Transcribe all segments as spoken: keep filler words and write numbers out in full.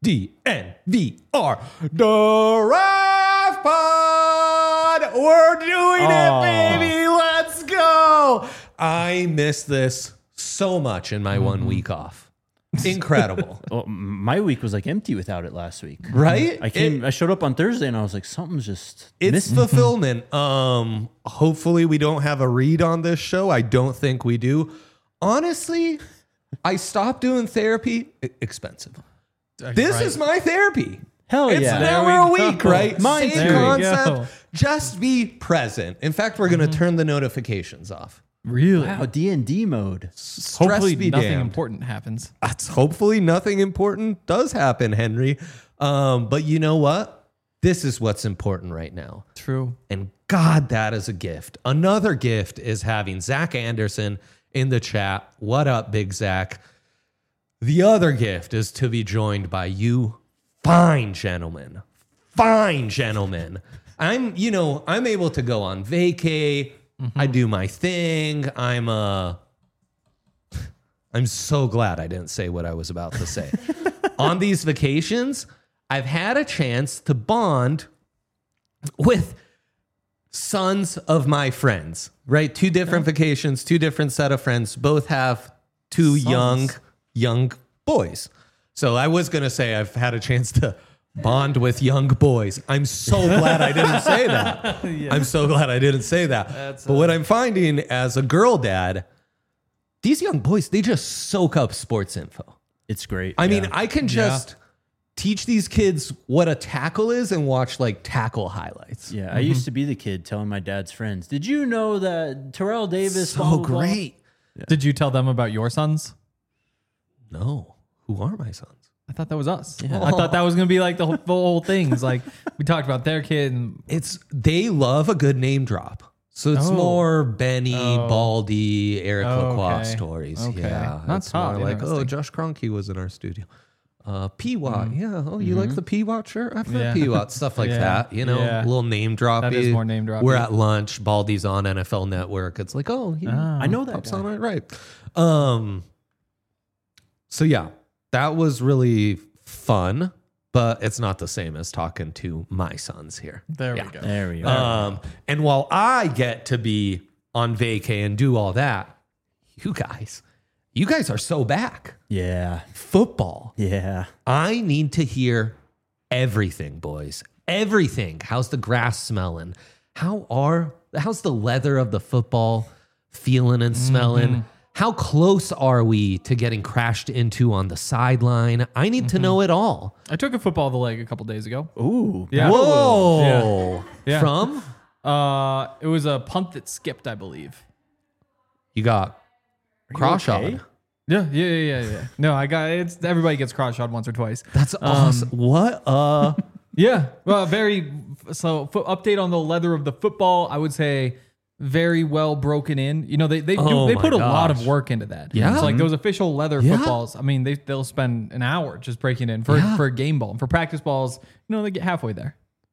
D N V R, Draft Pod. We're doing Oh. it, baby. Let's go. I miss this so much in my mm-hmm. one week off. Incredible. Well, my week was like empty without it last week. Right? I came. It, I showed up on Thursday and I was like, something's just. It's missing. fulfillment. Um, hopefully we don't have a read on this show. I don't think we do. Honestly, I stopped doing therapy. I- expensive. This right. is my therapy. Hell It's yeah! an hour a we week, go. right? Mine Same too. concept. Just be present. In fact, we're going to mm-hmm. turn the notifications off. Really? Wow, D and D mode. Stress Hopefully be nothing damned. important happens. That's hopefully nothing important does happen, Henry. Um, but you know what? This is what's important right now. True. And God, that is a gift. Another gift is having Zach Anderson in the chat. What up, Big Zach? The other gift is to be joined by you fine gentlemen. Fine gentlemen. I'm, you know, I'm able to go on vacay. Mm-hmm. I do my thing. I'm uh I'm so glad I didn't say what I was about to say. On these vacations, I've had a chance to bond with sons of my friends, right? Two different yeah. vacations, two different set of friends, both have two sons. young, young boys. So I was going to say I've had a chance to bond with young boys. I'm so glad I didn't say that. yeah. I'm so glad I didn't say that. That's but a- what I'm finding as a girl dad, these young boys, they just soak up sports info. It's great. I yeah. mean, I can just... Yeah. teach these kids what a tackle is and watch like tackle highlights. Yeah, mm-hmm. I used to be the kid telling my dad's friends, did you know that Terrell Davis... So blah, blah, blah? great. Yeah. Did you tell them about your sons? No. Who are my sons? I thought that was us. Yeah. I thought that was going to be like the whole, the whole thing. It's like we talked about their kid. And it's They love a good name drop. So it's oh. more Benny, oh. Baldy, Eric oh, Lacroix okay. stories. Okay. Yeah. Not it's more like, oh, Josh Kroenke was in our studio. Uh, P-Watt, mm. yeah. Oh, you mm-hmm. like the P-Watt shirt? I've heard yeah. P-Watt, stuff like yeah. that. You know, yeah. a little name drop. That is more name drop. We're at lunch. Baldy's on N F L Network. It's like, oh, he, oh. I know that pops guy. on it right. Um. So yeah, that was really fun, but it's not the same as talking to my sons here. There yeah. we go. There we go. Um. And while I get to be on vacay and do all that, you guys. You guys are so back. Yeah. Football. Yeah. I need to hear everything, boys. Everything. How's the grass smelling? How are how's the leather of the football feeling and smelling? Mm-hmm. How close are we to getting crashed into on the sideline? I need mm-hmm. to know it all. I took a football of the leg a couple days ago. Ooh. Yeah. Whoa. Yeah. Yeah. From? Uh, it was a punt that skipped, I believe. You got cross-shot. Okay? Yeah, yeah, yeah, yeah, yeah. No, I got it's everybody gets cross-shot once or twice. That's awesome. Um, what? Uh yeah. Well, very so fo- update on the leather of the football. I would say very well broken in. You know, they they do, oh they put a gosh. lot of work into that. Yeah. So like those official leather yeah. footballs. I mean, they they'll spend an hour just breaking in for yeah. for a game ball. And for practice balls, you know, they get halfway there.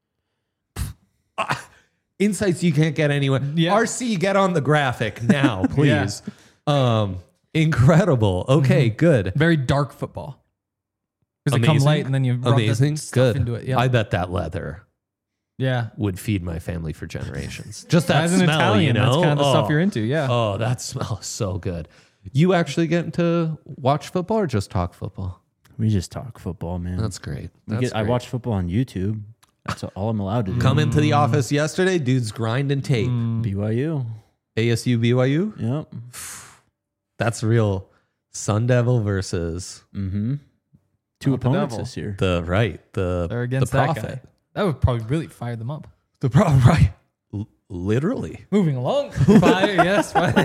Uh, insights you can't get anywhere. Yeah. R C, get on the graphic now, please. yeah. Um Incredible. Okay, mm-hmm. good. Very dark football. Because they come light and then you rub Amazing. the stuff Good. into it. Yeah. I bet that leather yeah. would feed my family for generations. Just that As an smell, Italian, you know? that's kind of the oh. stuff you're into, yeah. Oh, that smells so good. You actually getting to watch football or just talk football? We just talk football, man. That's great. That's That's get, great. I watch football on YouTube. That's all I'm allowed to do. Come into the office yesterday, dude's grinding tape. Mm. B Y U. A S U B Y U? Yep. That's real. Sun Devil versus mm-hmm. two Not opponents the this year. the right the They're against the that prophet. guy. That would probably really fire them up. The pro right, L- literally. Moving along, fire yes. Fire.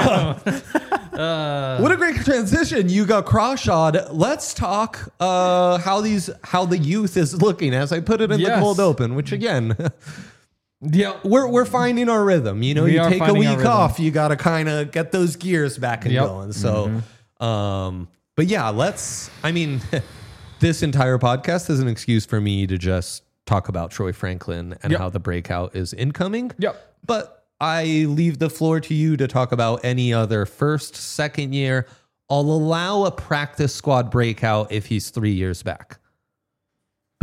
uh, What a great transition! You got cross-shot. Let's talk uh, how these how the youth is looking as I put it in Yes. the cold open. Which again, yeah, we're we're finding our rhythm. You know, We you are take a finding our week rhythm. off, you got to kind of get those gears back and Yep. going. So, um, but yeah, let's. I mean, this entire podcast is an excuse for me to just talk about Troy Franklin and Yep. how the breakout is incoming. Yep. But I leave the floor to you to talk about any other first, second year. I'll allow a practice squad breakout if he's three years back.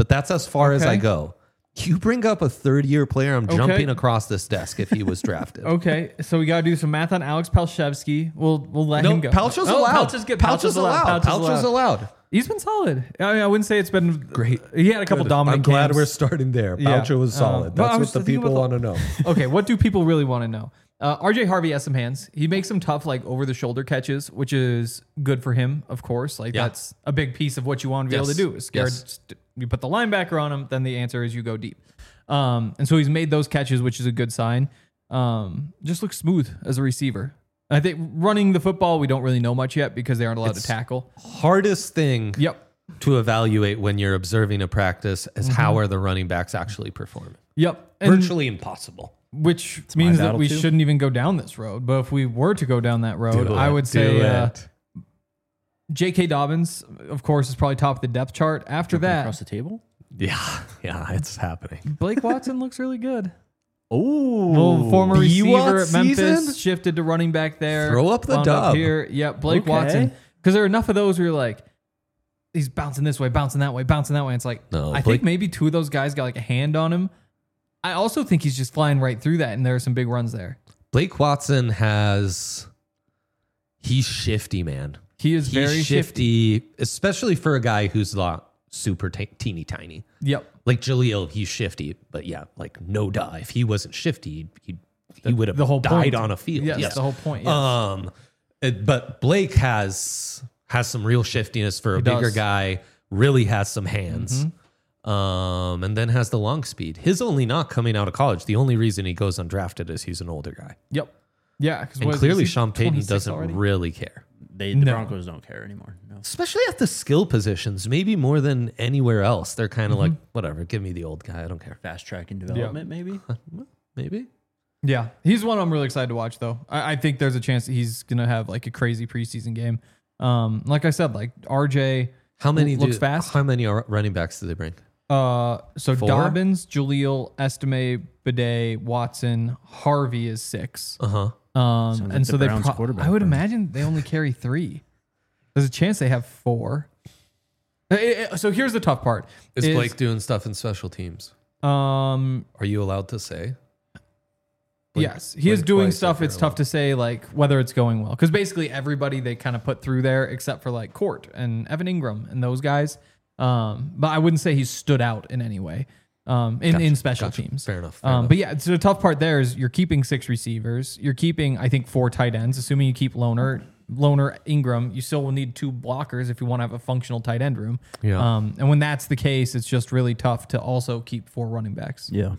but that's as far as Okay. I go. You bring up a third year player, I'm Okay. jumping across this desk if he was drafted. Okay, so we got to do some math on Alex Palshevsky. We'll we'll let No, him go. Palcho's Oh, allowed. Palch is good. Palch is allowed. Palch is Palch is allowed. He's been solid. I mean, I wouldn't say it's been great. He had a couple dominant I'm glad camps. we're starting there. Yeah. Palcho was Uh, solid. but I That's was what the thinking people about want the- to know. Okay, what do people really want to know? Uh, R J Harvey has some hands. He makes some tough, like over the shoulder catches, which is good for him, of course. Like Yeah. that's a big piece of what you want to be Yes. able to do. Is scared. Yes. st- You put the linebacker on him, then the answer is you go deep. Um, and so he's made those catches, which is a good sign. Um, just looks smooth as a receiver. I think running the football, we don't really know much yet because they aren't allowed It's- to tackle. Hardest thing Yep. to evaluate when you're observing a practice is Mm-hmm. how are the running backs actually performing. Yep. And Virtually impossible. which my means that battle we too. shouldn't even go down this road. But if we were to go down that road, Do I it. would Do say uh, it. J K. Dobbins, of course, is probably top of the depth chart. After Jumping that, across the table. Yeah, yeah, it's happening. Blake Watson looks really good. Oh, Well, former B W A receiver at Memphis, season? shifted to running back there. Throw up the wound dub. here. Yep, Blake Okay. Watson. Because there are enough of those where you're like, he's bouncing this way, bouncing that way, bouncing that way. It's like, No, I Blake- think maybe two of those guys got like a hand on him. I also think he's just flying right through that, and there are some big runs there. Blake Watson has, he's shifty, man. He is He's very shifty. shifty, especially for a guy who's not super t- teeny tiny. Yep. Like Jaleel, he's shifty, but yeah, like no duh. If he wasn't shifty, he he would have the whole died point. on a field. Yes, Yes, the whole point. Yes. Um, it- but Blake has has some real shiftiness for a He bigger does. guy. Really has some hands. Um, and then has the long speed. His only knock coming out of college. The only reason he goes undrafted is he's an older guy, Yep. Yeah. Because and clearly Sean Payton doesn't already? really care. They the No. Broncos don't care anymore. No. Especially at the skill positions, maybe more than anywhere else. They're kind of Mm-hmm. like, whatever, give me the old guy. I don't care. Fast track and development, maybe. Maybe. Yeah, he's one I'm really excited to watch, though. I, I think there's a chance that he's gonna have like a crazy preseason game. Um, like I said, like R J. How many looks do, fast? How many are running backs do they bring? Uh, so Four? Dobbins, Jaleel, Estime, Bidet, Watson, Harvey is six. Uh huh. Um, Sounds and like so the they, Browns pro- quarterback I would room. imagine they only carry three. There's a chance they have four. Eh, eh, eh, So here's the tough part: Is Blake doing stuff in special teams? Um, Are you allowed to say? Blake- yes, he is Blake doing twice stuff. if It's you're tough to say like whether it's going well because basically everybody they kind of put through there except for like Court and Evan Ingram and those guys. Um, but I wouldn't say he's stood out in any way. Um, in, Gotcha, in special gotcha. teams. Fair enough, fair um, enough. But yeah, so the tough part there is you're keeping six receivers. You're keeping, I think, four tight ends, assuming you keep Loner, Loner, Ingram. You still will need two blockers if you want to have a functional tight end room. Yeah. Um, and when that's the case, it's just really tough to also keep four running backs. Yeah.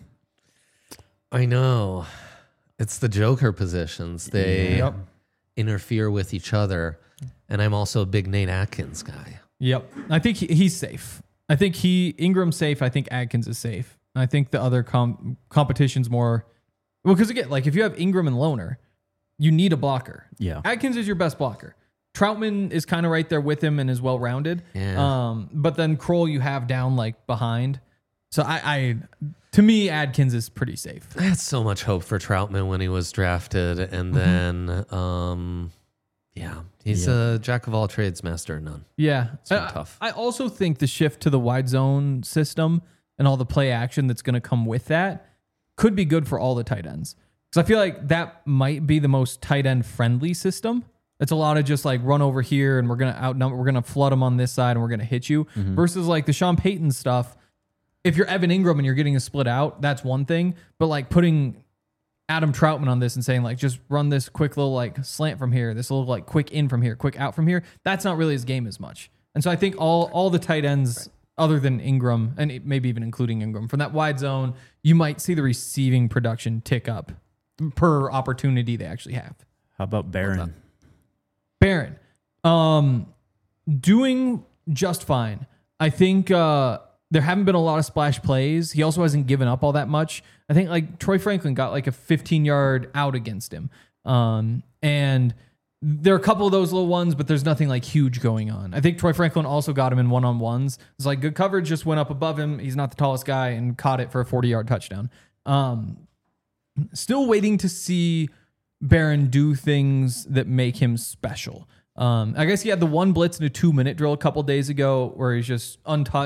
I know. It's the Joker positions. They Yep. interfere with each other. And I'm also a big Nate Atkins guy. Yep. I think he, he's safe. I think he Ingram's safe. I think Adkins is safe. I think the other com- competition's more well because again, like if you have Ingram and Loner, you need a blocker. Yeah. Adkins is your best blocker. Troutman is kind of right there with him and is well rounded. Yeah. Um, but then Kroll you have down like behind. So I, I to me Adkins is pretty safe. I had so much hope for Troutman when he was drafted. And then, um, yeah, he's Yeah. a jack of all trades, master of none. Yeah, been I, tough. I also think the shift to the wide zone system and all the play action that's going to come with that could be good for all the tight ends. Because I feel like that might be the most tight end friendly system. It's a lot of just like run over here and we're going to outnumber, we're going to flood them on this side and we're going to hit you. Versus like the Sean Payton stuff. If you're Evan Ingram and you're getting a split out, that's one thing. But like putting Adam Troutman on this and saying like just run this quick little like slant from here, this little like quick in from here, quick out from here. That's not really his game as much. And so I think all all the tight ends other than Ingram and it- maybe even including Ingram from that wide zone, you might see the receiving production tick up per opportunity they actually have. How about Barron? Barron, um, doing just fine. I think uh, there haven't been a lot of splash plays. He also hasn't given up all that much. I think like Troy Franklin got like a fifteen yard out against him. Um, and there are a couple of those little ones, but there's nothing like huge going on. I think Troy Franklin also got him in one on ones. It's like good coverage just went up above him. He's not the tallest guy and caught it for a forty yard touchdown. Um, still waiting to see Barron do things that make him special. Um, I guess he had the one blitz in a two minute drill a couple days ago where he's just untouched.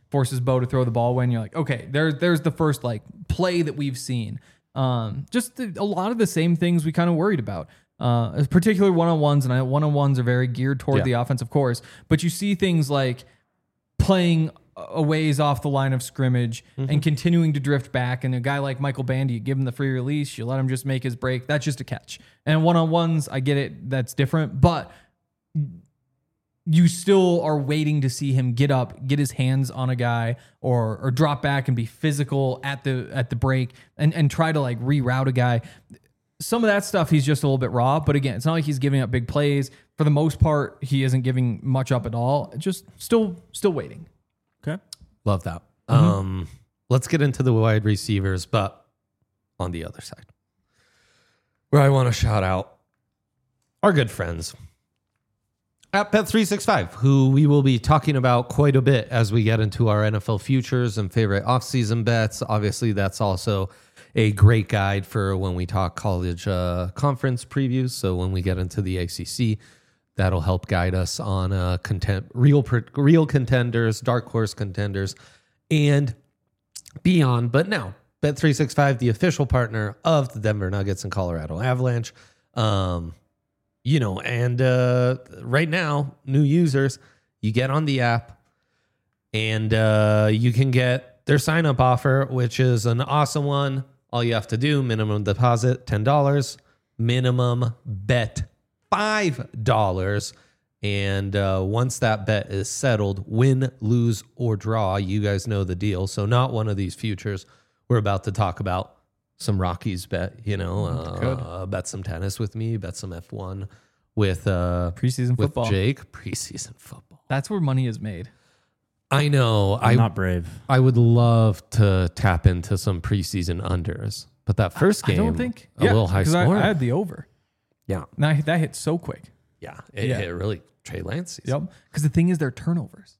forces Bo to throw the ball away, and you're like, okay, there's there's the first like play that we've seen. Um, just the, a lot of the same things we kind of worried about. Uh, particularly one-on-ones, and I, one-on-ones are very geared toward Yeah. the offense, of course. But you see things like playing a ways off the line of scrimmage Mm-hmm. and continuing to drift back. And a guy like Michael Bandy, you give him the free release, you let him just make his break. That's just a catch. And one-on-ones, I get it, that's different. But you still are waiting to see him get up, get his hands on a guy, or or drop back and be physical at the at the break and, and try to like reroute a guy. Some of that stuff, he's just a little bit raw. But again, it's not like he's giving up big plays. For the most part, he isn't giving much up at all. Just still still waiting. Okay. Love that. Um, let's get into the wide receivers, but on the other side, where I want to shout out our good friends at Bet three sixty-five, who we will be talking about quite a bit as we get into our N F L futures and favorite offseason bets. Obviously, that's also a great guide for when we talk college uh, conference previews. So when we get into the A C C, that'll help guide us on uh, content, real real contenders, dark horse contenders, and beyond. But now, Bet three sixty-five, the official partner of the Denver Nuggets and Colorado Avalanche. Um, you know, and uh, right now, new users, you get on the app and uh, you can get their sign-up offer, which is an awesome one. All you have to do, minimum deposit, ten dollars, minimum bet, five dollars. And uh, once that bet is settled, win, lose, or draw, you guys know the deal. So not one of these futures we're about to talk about. Some Rockies bet, you know, uh, bet some tennis with me, bet some F one with uh, Preseason with football. Jake. Preseason football. That's where money is made. I know. I'm I not brave. I would love to tap into some preseason unders, but that first game, I don't think a little high 'cause I, score. I had the over. yeah, Now that hit so quick. yeah, it, Yeah. it really Trey Lance season. Yep. Because the thing is, they're turnovers.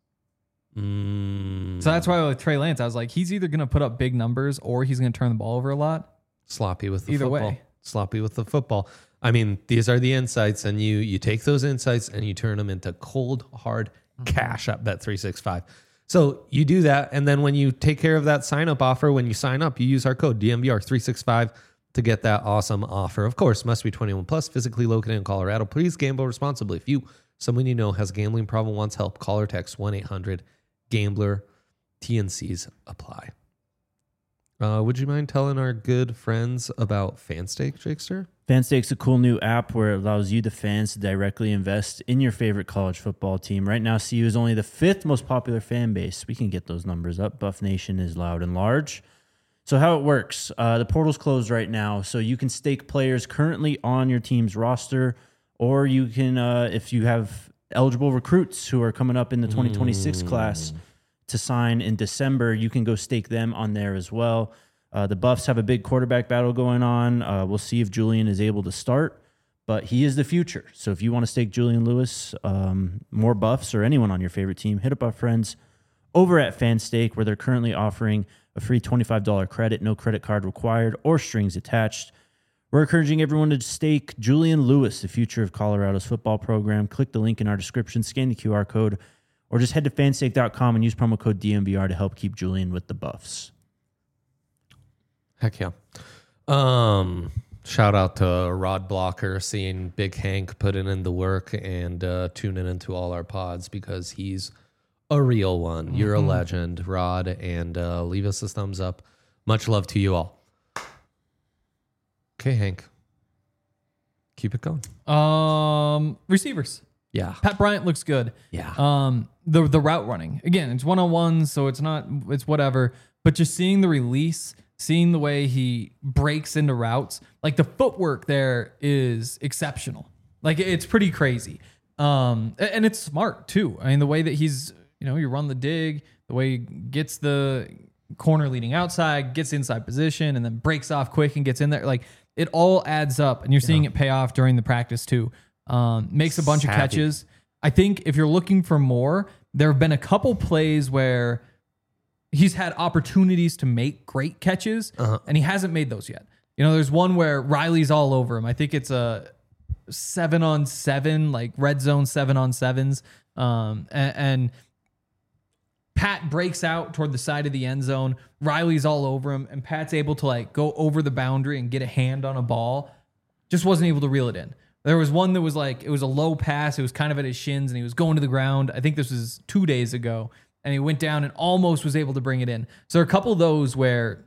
Mm, So that's why with Trey Lance, I was like, he's either going to put up big numbers or he's going to turn the ball over a lot. sloppy with the Either football. way. Sloppy with the football. I mean, these are the insights, and you you take those insights and you turn them into cold hard cash at Bet three sixty-five. So you do that, and then when you take care of that sign up offer, when you sign up, you use our code D M V R three sixty-five to get that awesome offer. Of course, must be twenty-one plus, physically located in Colorado. Please gamble responsibly. If you, someone you know, has a gambling problem, wants help, call or text one eight hundred gambler. T N Cs apply. Uh, would you mind telling our good friends about Fanstake, Jakester? Fanstake's a cool new app where it allows you, the fans, to directly invest in your favorite college football team. Right now, C U is only the fifth most popular fan base. We can get those numbers up. Buff Nation is loud and large. So how it works, uh, the portal's closed right now, so you can stake players currently on your team's roster, or you can, uh, if you have eligible recruits who are coming up in the twenty twenty-six class to sign in December, you can go stake them on there as well. Uh, the Buffs have a big quarterback battle going on. Uh, we'll see if Julian is able to start, but he is the future. So if you want to stake Julian Lewis, um, more Buffs, or anyone on your favorite team, hit up our friends over at Fanstake, where they're currently offering a free twenty-five dollars credit, no credit card required or strings attached. We're encouraging everyone to stake Julian Lewis, the future of Colorado's football program. Click the link in our description, scan the Q R code, or just head to fanstake dot com and use promo code D M V R to help keep Julian with the Buffs. Heck yeah. Um, shout out to Rod Blocker, seeing Big Hank putting in the work and uh, tuning into all our pods, because he's a real one. You're a legend, Rod, and uh, leave us a thumbs up. Much love to you all. Okay, Hank. Keep it going. Um, receivers. Yeah. Pat Bryant looks good. Yeah. Um, the the route running, again, it's one on one, so it's not it's whatever. But just seeing the release, seeing the way he breaks into routes, like the footwork there is exceptional. Like it's pretty crazy. Um, a- and it's smart too. I mean, the way that he's, you know, you run the dig, the way he gets the corner leading outside, gets inside position, and then breaks off quick and gets in there. Like it all adds up, and you're seeing it pay off during the practice too. Um, makes a bunch Savvy. of catches. I think if you're looking for more, there have been a couple plays where he's had opportunities to make great catches, Uh-huh. and he hasn't made those yet. You know, there's one where Riley's all over him. I think it's a seven on seven, like red zone seven on sevens. Um, and, and Pat breaks out toward the side of the end zone. Riley's all over him, and Pat's able to like go over the boundary and get a hand on a ball. Just wasn't able to reel it in. There was one that was like, it was a low pass. It was kind of at his shins, and he was going to the ground. I think this was two days ago, and he went down and almost was able to bring it in. So there are a couple of those where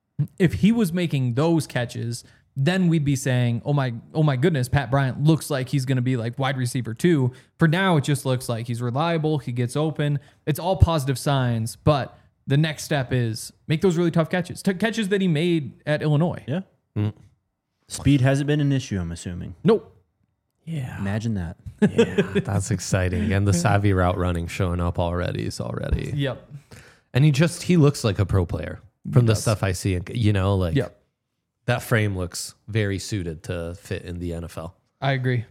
if he was making those catches, then we'd be saying, oh my, oh my goodness, Pat Bryant looks like he's going to be like wide receiver two. For now, it just looks like he's reliable. He gets open. It's all positive signs, but the next step is make those really tough catches. T- catches that he made at Illinois. Yeah. Mm. Speed hasn't been an issue, I'm assuming. Nope. Yeah. Imagine that. Yeah, that's exciting. And the savvy route running showing up already is already. Yep. And he just, he looks like a pro player from He the does. stuff I see. You know, like Yep. that frame looks very suited to fit in the N F L. I agree.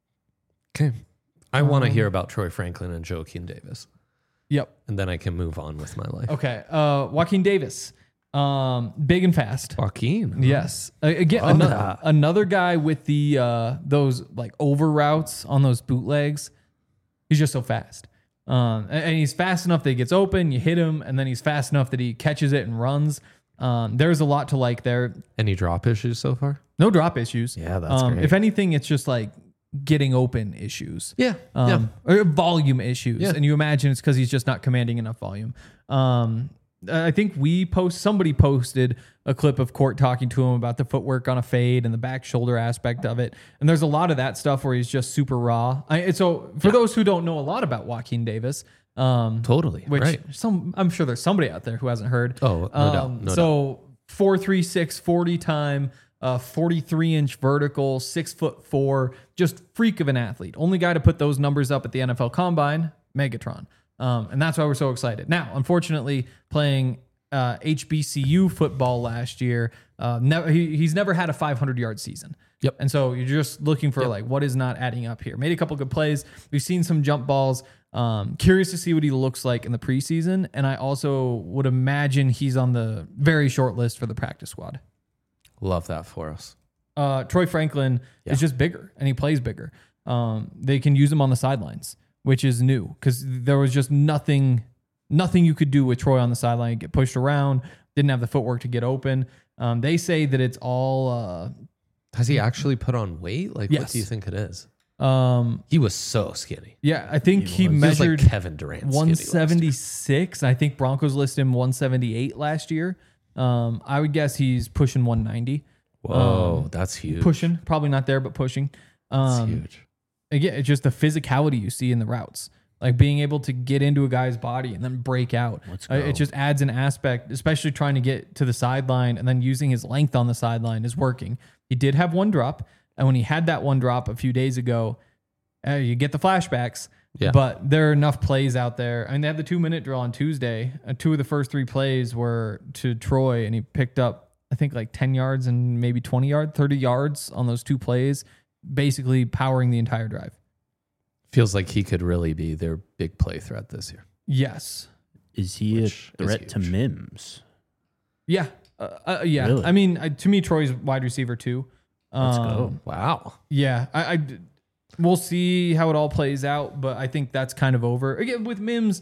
Okay. I want to Um, hear about Troy Franklin and Joaquin Davis. Yep. And then I can move on with my life. Okay. Uh, Joaquin Davis, um, big and fast. Joaquin. Yes. Uh, Again, Love another, that. another guy with the uh, those like over routes on those bootlegs. He's just so fast. Um, and, and he's fast enough that he gets open, you hit him, and then he's fast enough that he catches it and runs. Um, there's a lot to like there. Any drop issues so far? No drop issues. Yeah, that's um, great. If anything, it's just like getting open issues. Yeah. Um, or volume issues. Yeah. And you imagine it's because he's just not commanding enough volume. Um, I think we post, somebody posted a clip of Court talking to him about the footwork on a fade and the back shoulder aspect of it. And there's a lot of that stuff where he's just super raw. I, and so for those who don't know a lot about Joaquin Davis, um, Totally. which right. some, I'm sure there's somebody out there who hasn't heard. Oh, no doubt. Um, No so four, three, six, forty time, uh, forty-three inch vertical, six foot four, just freak of an athlete. Only guy to put those numbers up at the N F L Combine, Megatron. Um, and that's why we're so excited. Now, unfortunately, playing uh, H B C U football last year, uh, never, he, he's never had a five hundred yard season. Yep. And so you're just looking for like, what is not adding up here? Made a couple good plays. We've seen some jump balls. Um, curious to see what he looks like in the preseason. And I also would imagine he's on the very short list for the practice squad. Love that for us. Uh, Troy Franklin Yeah. is just bigger and he plays bigger. Um, they can use him on the sidelines, which is new because there was just nothing, nothing you could do with Troy on the sideline. Get pushed around, didn't have the footwork to get open. Um, they say that it's all, uh, Has he actually put on weight? Like, what Yes. do you think it is? um, He was so skinny. yeah, I think he, He was measured like Kevin Durant. skinny one last year. seventy-six. I think Broncos listed him one seventy-eight last year. Um, I would guess he's pushing one ninety. Whoa, Um, that's huge. Pushing, probably not there, but pushing. That's Um, huge. Again, it's just the physicality you see in the routes, like being able to get into a guy's body and then break out. Let's Uh, go. It just adds an aspect, especially trying to get to the sideline and then using his length on the sideline is working. He did have one drop, and when he had that one drop a few days ago, uh, you get the flashbacks. Yeah. But there are enough plays out there. I mean, they had the two minute drill on Tuesday. Uh, two of the first three plays were to Troy, and he picked up, I think, like ten yards and maybe twenty yards, thirty yards on those two plays, basically powering the entire drive. Feels like he could really be their big play threat this year. Yes. Is he Which a is threat to huge. Mims? Yeah. Uh, uh, yeah. Really? I mean, uh, to me, Troy's wide receiver too. Let's Um, go. Wow. Yeah. I, I, we'll see how it all plays out, but I think that's kind of over. Again, with Mims,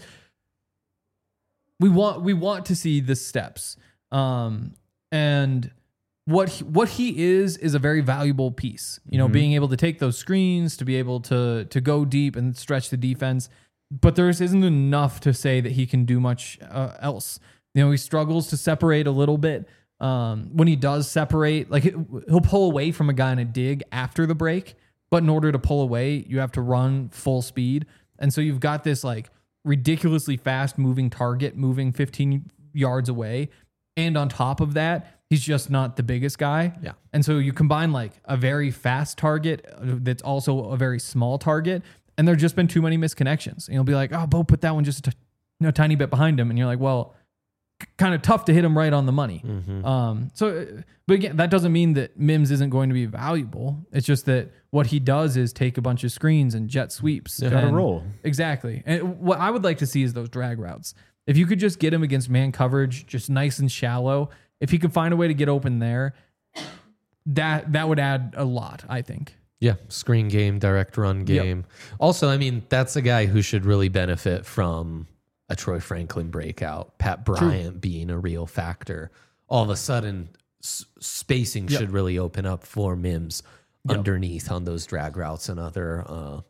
we want we want to see the steps. Um, and what he, what he is is a very valuable piece. You know, Mhm. being able to take those screens, to be able to to go deep and stretch the defense. But there isn't enough to say that he can do much uh, else. You know, he struggles to separate a little bit. Um, when he does separate, like he- he'll pull away from a guy in a dig after the break, but in order to pull away, you have to run full speed. And so you've got this like ridiculously fast moving target moving fifteen yards away. And on top of that, he's just not the biggest guy. Yeah. And so you combine like a very fast target uh, that's also a very small target. And there's just been too many misconnections. And you'll be like, oh, Bo put that one just a t- you know, tiny bit behind him. And you're like, well, c- kind of tough to hit him right on the money. Mm-hmm. Um, so, uh, but again, that doesn't mean that Mims isn't going to be valuable. It's just that what he does is take a bunch of screens and jet sweeps. Gotta and- roll. Exactly. And what I would like to see is those drag routes. If you could just get him against man coverage, just nice and shallow, if he could find a way to get open there, that that would add a lot, I think. Yeah, screen game, direct run Yep. game. Also, I mean, that's a guy who should really benefit from a Troy Franklin breakout, Pat Bryant True. being a real factor, all of a sudden s- spacing yep. should really open up for Mims yep. underneath on those drag routes and other, uh,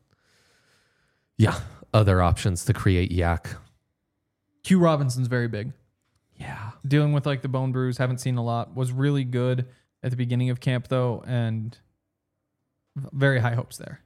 yeah, other options to create yak. Q Robinson's very big. Yeah. Dealing with like the bone bruise, haven't seen a lot. Was really good at the beginning of camp though, and very high hopes there.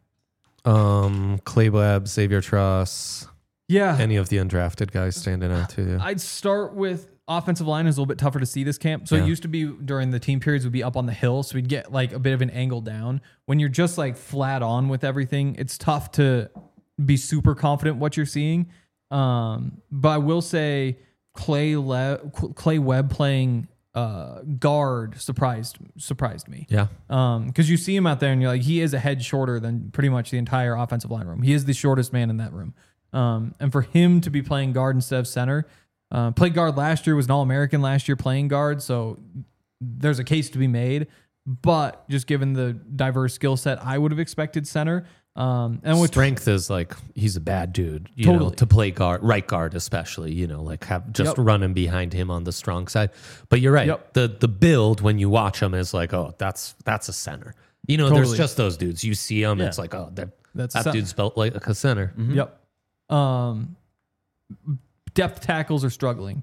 Um, Clay Webb, Xavier Truss. Yeah. Any of the undrafted guys standing out to you? I'd start with offensive line is a little bit tougher to see this camp. So yeah. it used to be during the team periods, we'd be up on the hill. So we'd get like a bit of an angle down. When you're just like flat on with everything, it's tough to be super confident what you're seeing. Um, but I will say Clay Le- Clay Webb playing uh, guard surprised surprised me. Yeah. Um, because you see him out there and you're like, he is a head shorter than pretty much the entire offensive line room. He is the shortest man in that room. Um, and for him to be playing guard instead of center, uh, played guard last year, was an All-American last year playing guard. So there's a case to be made. But just given the diverse skill set, I would have expected center. Um, and with strength is like, he's a bad dude, you totally. know, to play guard, right guard, especially, you know, like have just yep. running behind him on the strong side. But you're right. Yep. The, the build when you watch him is like, oh, that's, that's a center. You know, totally. There's just those dudes. You see them. Yeah. It's like, oh, that's that dude's built like a center. Mm-hmm. Yep. Um, depth tackles are struggling.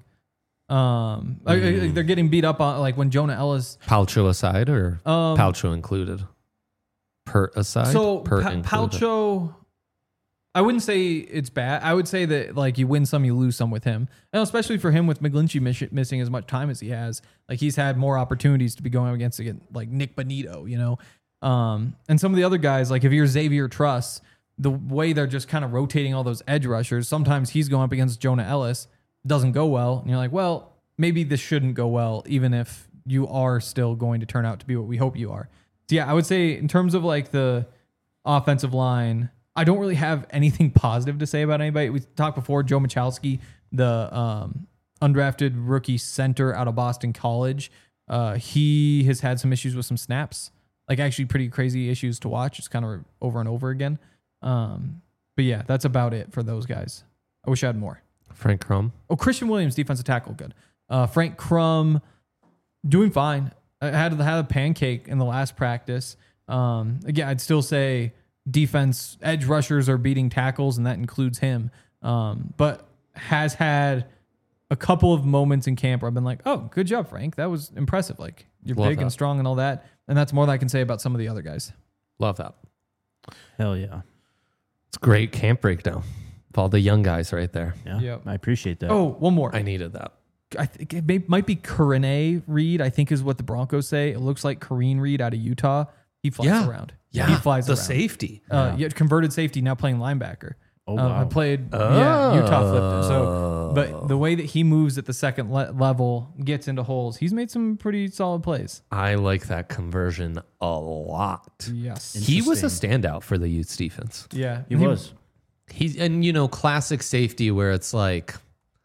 Um, mm. they're getting beat up on like when Jonah Ellis. Palcho aside or um, Palcho included? Pert aside? So Pert pa- Palcho, I wouldn't say it's bad. I would say that like you win some, you lose some with him. And especially for him with McGlinchey miss- missing as much time as he has. Like he's had more opportunities to be going up against again, like Nick Bonito, you know? Um, and some of the other guys, like if you're Xavier Truss, the way they're just kind of rotating all those edge rushers, sometimes he's going up against Jonah Ellis, doesn't go well. And you're like, well, maybe this shouldn't go well, even if you are still going to turn out to be what we hope you are. So yeah, I would say in terms of like the offensive line, I don't really have anything positive to say about anybody. We talked before, Joe Michalski, the um, undrafted rookie center out of Boston College. Uh, he has had some issues with some snaps, like actually pretty crazy issues to watch. It's kind of over and over again. Um, but yeah, that's about it for those guys. I wish I had more. Frank Crum. Oh, Christian Williams, defensive tackle, good. Uh, Frank Crum, doing fine. I had had a pancake in the last practice. Um, again, I'd still say defense edge rushers are beating tackles, and that includes him. Um, but has had a couple of moments in camp where I've been like, "Oh, good job, Frank. That was impressive. Like you're Love big that. and strong and all that." And that's more than I can say about some of the other guys. Love that. Hell yeah. It's great camp breakdown. All the young guys right there. Yeah, yep. I appreciate that. Oh, one more. I needed that. I think it may, might be Karene Reed, I think is what the Broncos say. It looks like Karene Reed out of Utah. He flies yeah. around. Yeah, he flies the around. safety. Uh, yeah. yeah, converted safety, now playing linebacker. Oh, wow. Uh, I played, oh. yeah, Utah flipped him. So, but the way that he moves at the second le- level, gets into holes, he's made some pretty solid plays. I like that conversion a lot. Yes. He was a standout for the Utes defense. Yeah, he, he was. He's, and you know, classic safety where it's like,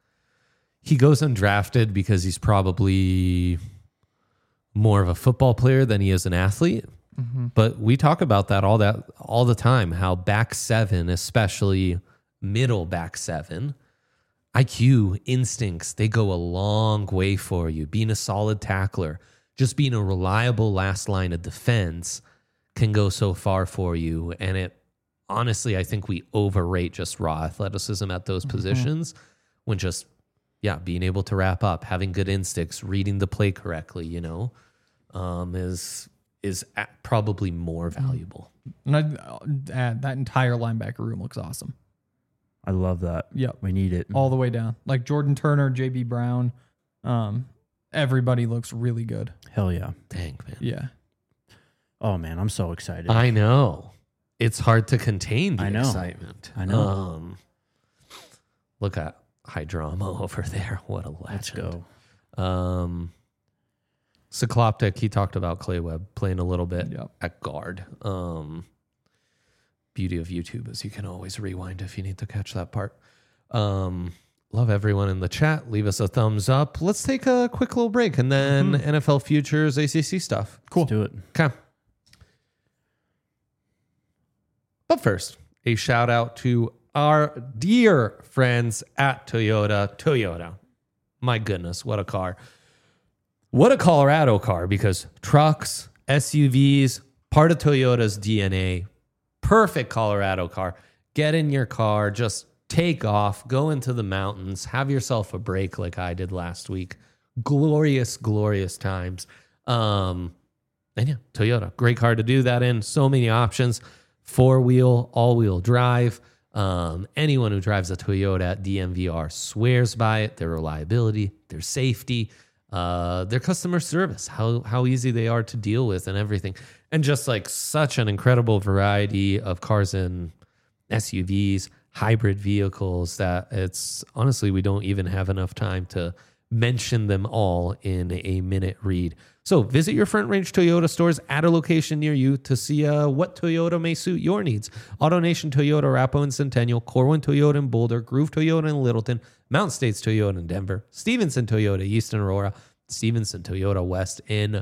he goes undrafted because he's probably more of a football player than he is an athlete. Mm-hmm. But we talk about that all that all the time, how back seven, especially middle back seven, I Q, instincts, they go a long way for you. Being a solid tackler, just being a reliable last line of defense can go so far for you. And it honestly, I think we overrate just raw athleticism at those mm-hmm. positions when just Yeah, being able to wrap up, having good instincts, reading the play correctly, you know, um, is is at probably more valuable. And I'd add that entire linebacker room looks awesome. I love that. Yep. We need it. All the way down. Like Jordan Turner, J B Brown, um, everybody looks really good. Hell yeah. Dang, man. Yeah. Oh, man, I'm so excited. I know. It's hard to contain the I know. excitement. I know. Um, look at high drama over there. What a legend. Let's go. Um, Cycloptic, he talked about Clay Webb playing a little bit yep. at guard. Um, beauty of YouTube is you can always rewind if you need to catch that part. Um, love everyone in the chat. Leave us a thumbs up. Let's take a quick little break and then mm-hmm. N F L futures, A C C stuff. Cool. Let's do it. Okay. But first, a shout out to our dear friends at Toyota. Toyota. My goodness, what a car. What a Colorado car, because trucks, S U Vs, part of Toyota's D N A. Perfect Colorado car. Get in your car, just take off, go into the mountains, have yourself a break like I did last week. Glorious, glorious times. Um, and yeah, Toyota, great car to do that in. So many options. Four-wheel, all-wheel drive. Um, anyone who drives a Toyota at D M V R swears by it. Their reliability, their safety, uh, their customer service, how how easy they are to deal with and everything. And just like such an incredible variety of cars and S U Vs, hybrid vehicles that it's honestly, we don't even have enough time to mention them all in a minute read. So visit your Front Range Toyota stores at a location near you to see uh, what Toyota may suit your needs. AutoNation Toyota, Arapahoe and Centennial, Corwin Toyota in Boulder, Groove Toyota in Littleton, Mountain States Toyota in Denver, Stevenson Toyota East in Aurora, Stevenson Toyota West in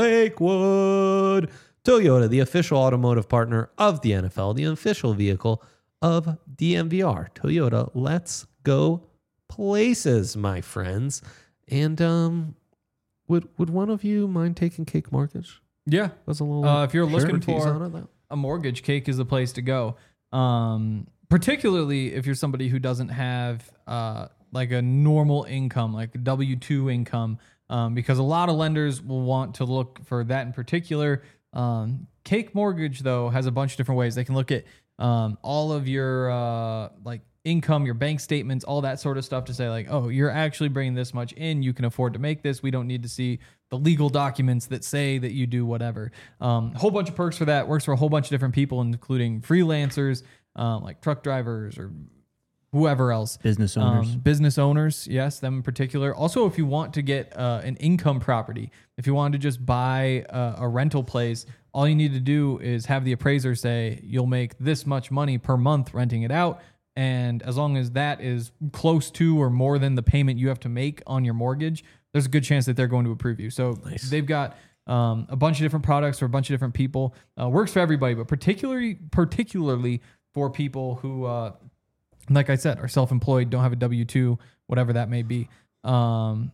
Lakewood. Toyota, the official automotive partner of the N F L, the official vehicle of D M V R. Toyota, let's go places, my friends. And um, would would one of you mind taking Cake Mortgage? Yeah. That's a little. Uh, if you're looking expertise for on it, though. a mortgage, Cake is the place to go. Um, particularly if you're somebody who doesn't have uh, like a normal income, like W two income, um, because a lot of lenders will want to look for that in particular. Um, Cake Mortgage, though, has a bunch of different ways. They can look at um, all of your uh, like income, your bank statements, all that sort of stuff to say like, oh, you're actually bringing this much in. You can afford to make this. We don't need to see the legal documents that say that you do whatever. Um, a whole bunch of perks for that. Works for a whole bunch of different people, including freelancers, um, like truck drivers or whoever else. Business owners. Um, business owners, yes, them in particular. Also, if you want to get uh, an income property, if you want to just buy a, a rental place, all you need to do is have the appraiser say you'll make this much money per month renting it out. And as long as that is close to or more than the payment you have to make on your mortgage, there's a good chance that they're going to approve you. So nice. They've got um, a bunch of different products for a bunch of different people. Uh, works for everybody, but particularly particularly for people who, uh, like I said, are self-employed, don't have a W two, whatever that may be. Um,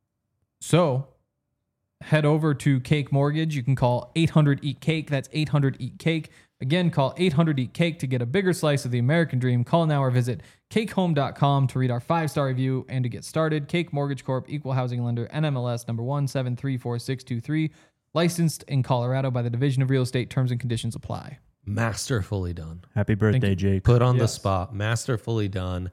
so head over to Cake Mortgage. You can call eight hundred eat cake. That's eight hundred eat cake. Again, call eight hundred eat cake to get a bigger slice of the American dream. Call now or visit cake home dot com to read our five-star review and to get started. Cake Mortgage Corp, Equal Housing Lender, N M L S number one seven three four six two three. Licensed in Colorado by the Division of Real Estate. Terms and conditions apply. Masterfully done. Happy birthday, Jake. Put on Yes. the spot. Masterfully done.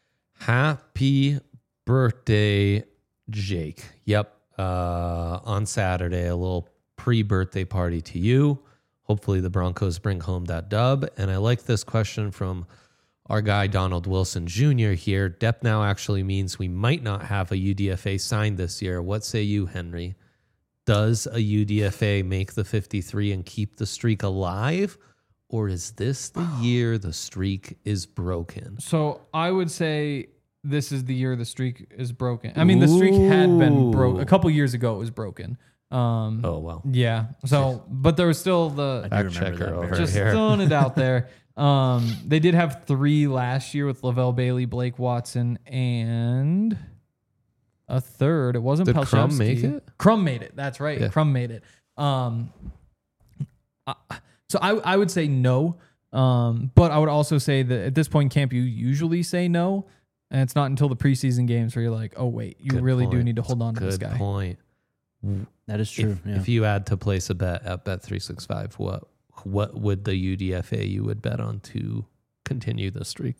Happy birthday, Jake. Yep. Uh, on Saturday, a little pre-birthday party to you. Hopefully the Broncos bring home that dub. And I like this question from our guy, Donald Wilson Junior here. Depth now actually means we might not have a U D F A signed this year. What say you, Henry? Does a U D F A make the fifty-three and keep the streak alive? Or is this the year the streak is broken? So I would say this is the year the streak is broken. I mean, the streak had been broke a couple years ago. It was broken. Um, Oh, well. yeah. So, but there was still the I do Fact remember checker that over very just here. throwing it out there. Um, they did have three last year with Lavelle Bailey, Blake Watson, and a third. It wasn't Did Palczewski. Crum make it? Crum made it. That's right. Yeah. Crum made it. Um, I, so I I would say no. Um, but I would also say that at this point in camp, you usually say no. And it's not until the preseason games where you're like, oh, wait, you Good really do point. need to hold on to Good this guy. point. That is true. If, yeah. if you had to place a bet at Bet three sixty-five, what what would the U D F A you would bet on to continue the streak?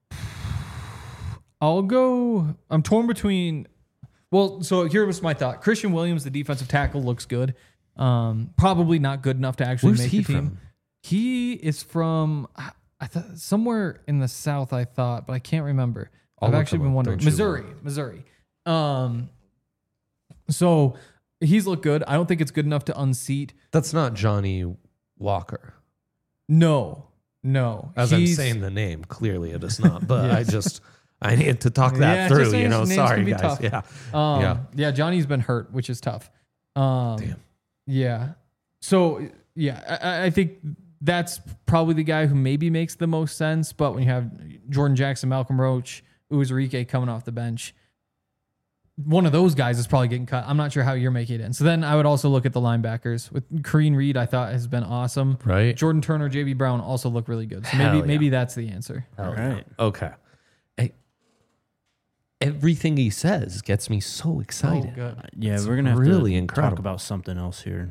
I'll go. I'm torn between. Well, so here was my thought. Christian Williams, the defensive tackle, looks good. Um, probably not good enough to actually Where's make he the team. from? He is from I I thought somewhere in the South. I thought, but I can't remember. I'll I've look actually him been up. wondering. Don't you Missouri, worry. Missouri. Um, so he's looked good. I don't think it's good enough to unseat. That's not Johnny Walker. No, no. As He's- I'm saying the name, clearly it is not. But Yeah. I just I need to talk that Yeah, through. just You names- know, names sorry can be guys. tough. Yeah, Um, Yeah. yeah. Johnny's been hurt, which is tough. Um, Damn. Yeah. So yeah, I, I think that's probably the guy who maybe makes the most sense. But when you have Jordan Jackson, Malcolm Roach, Uzurike coming off the bench, one of those guys is probably getting cut. I'm not sure how you're making it in. So then I would also look at the linebackers. With Kareem Reed, I thought has been awesome. Right. Jordan Turner, J B Brown also look really good. So Hell maybe yeah. maybe that's the answer. All right. Okay. Hey, everything he says gets me so excited. Oh, good. Yeah, It's we're gonna have really to incredible. talk about something else here.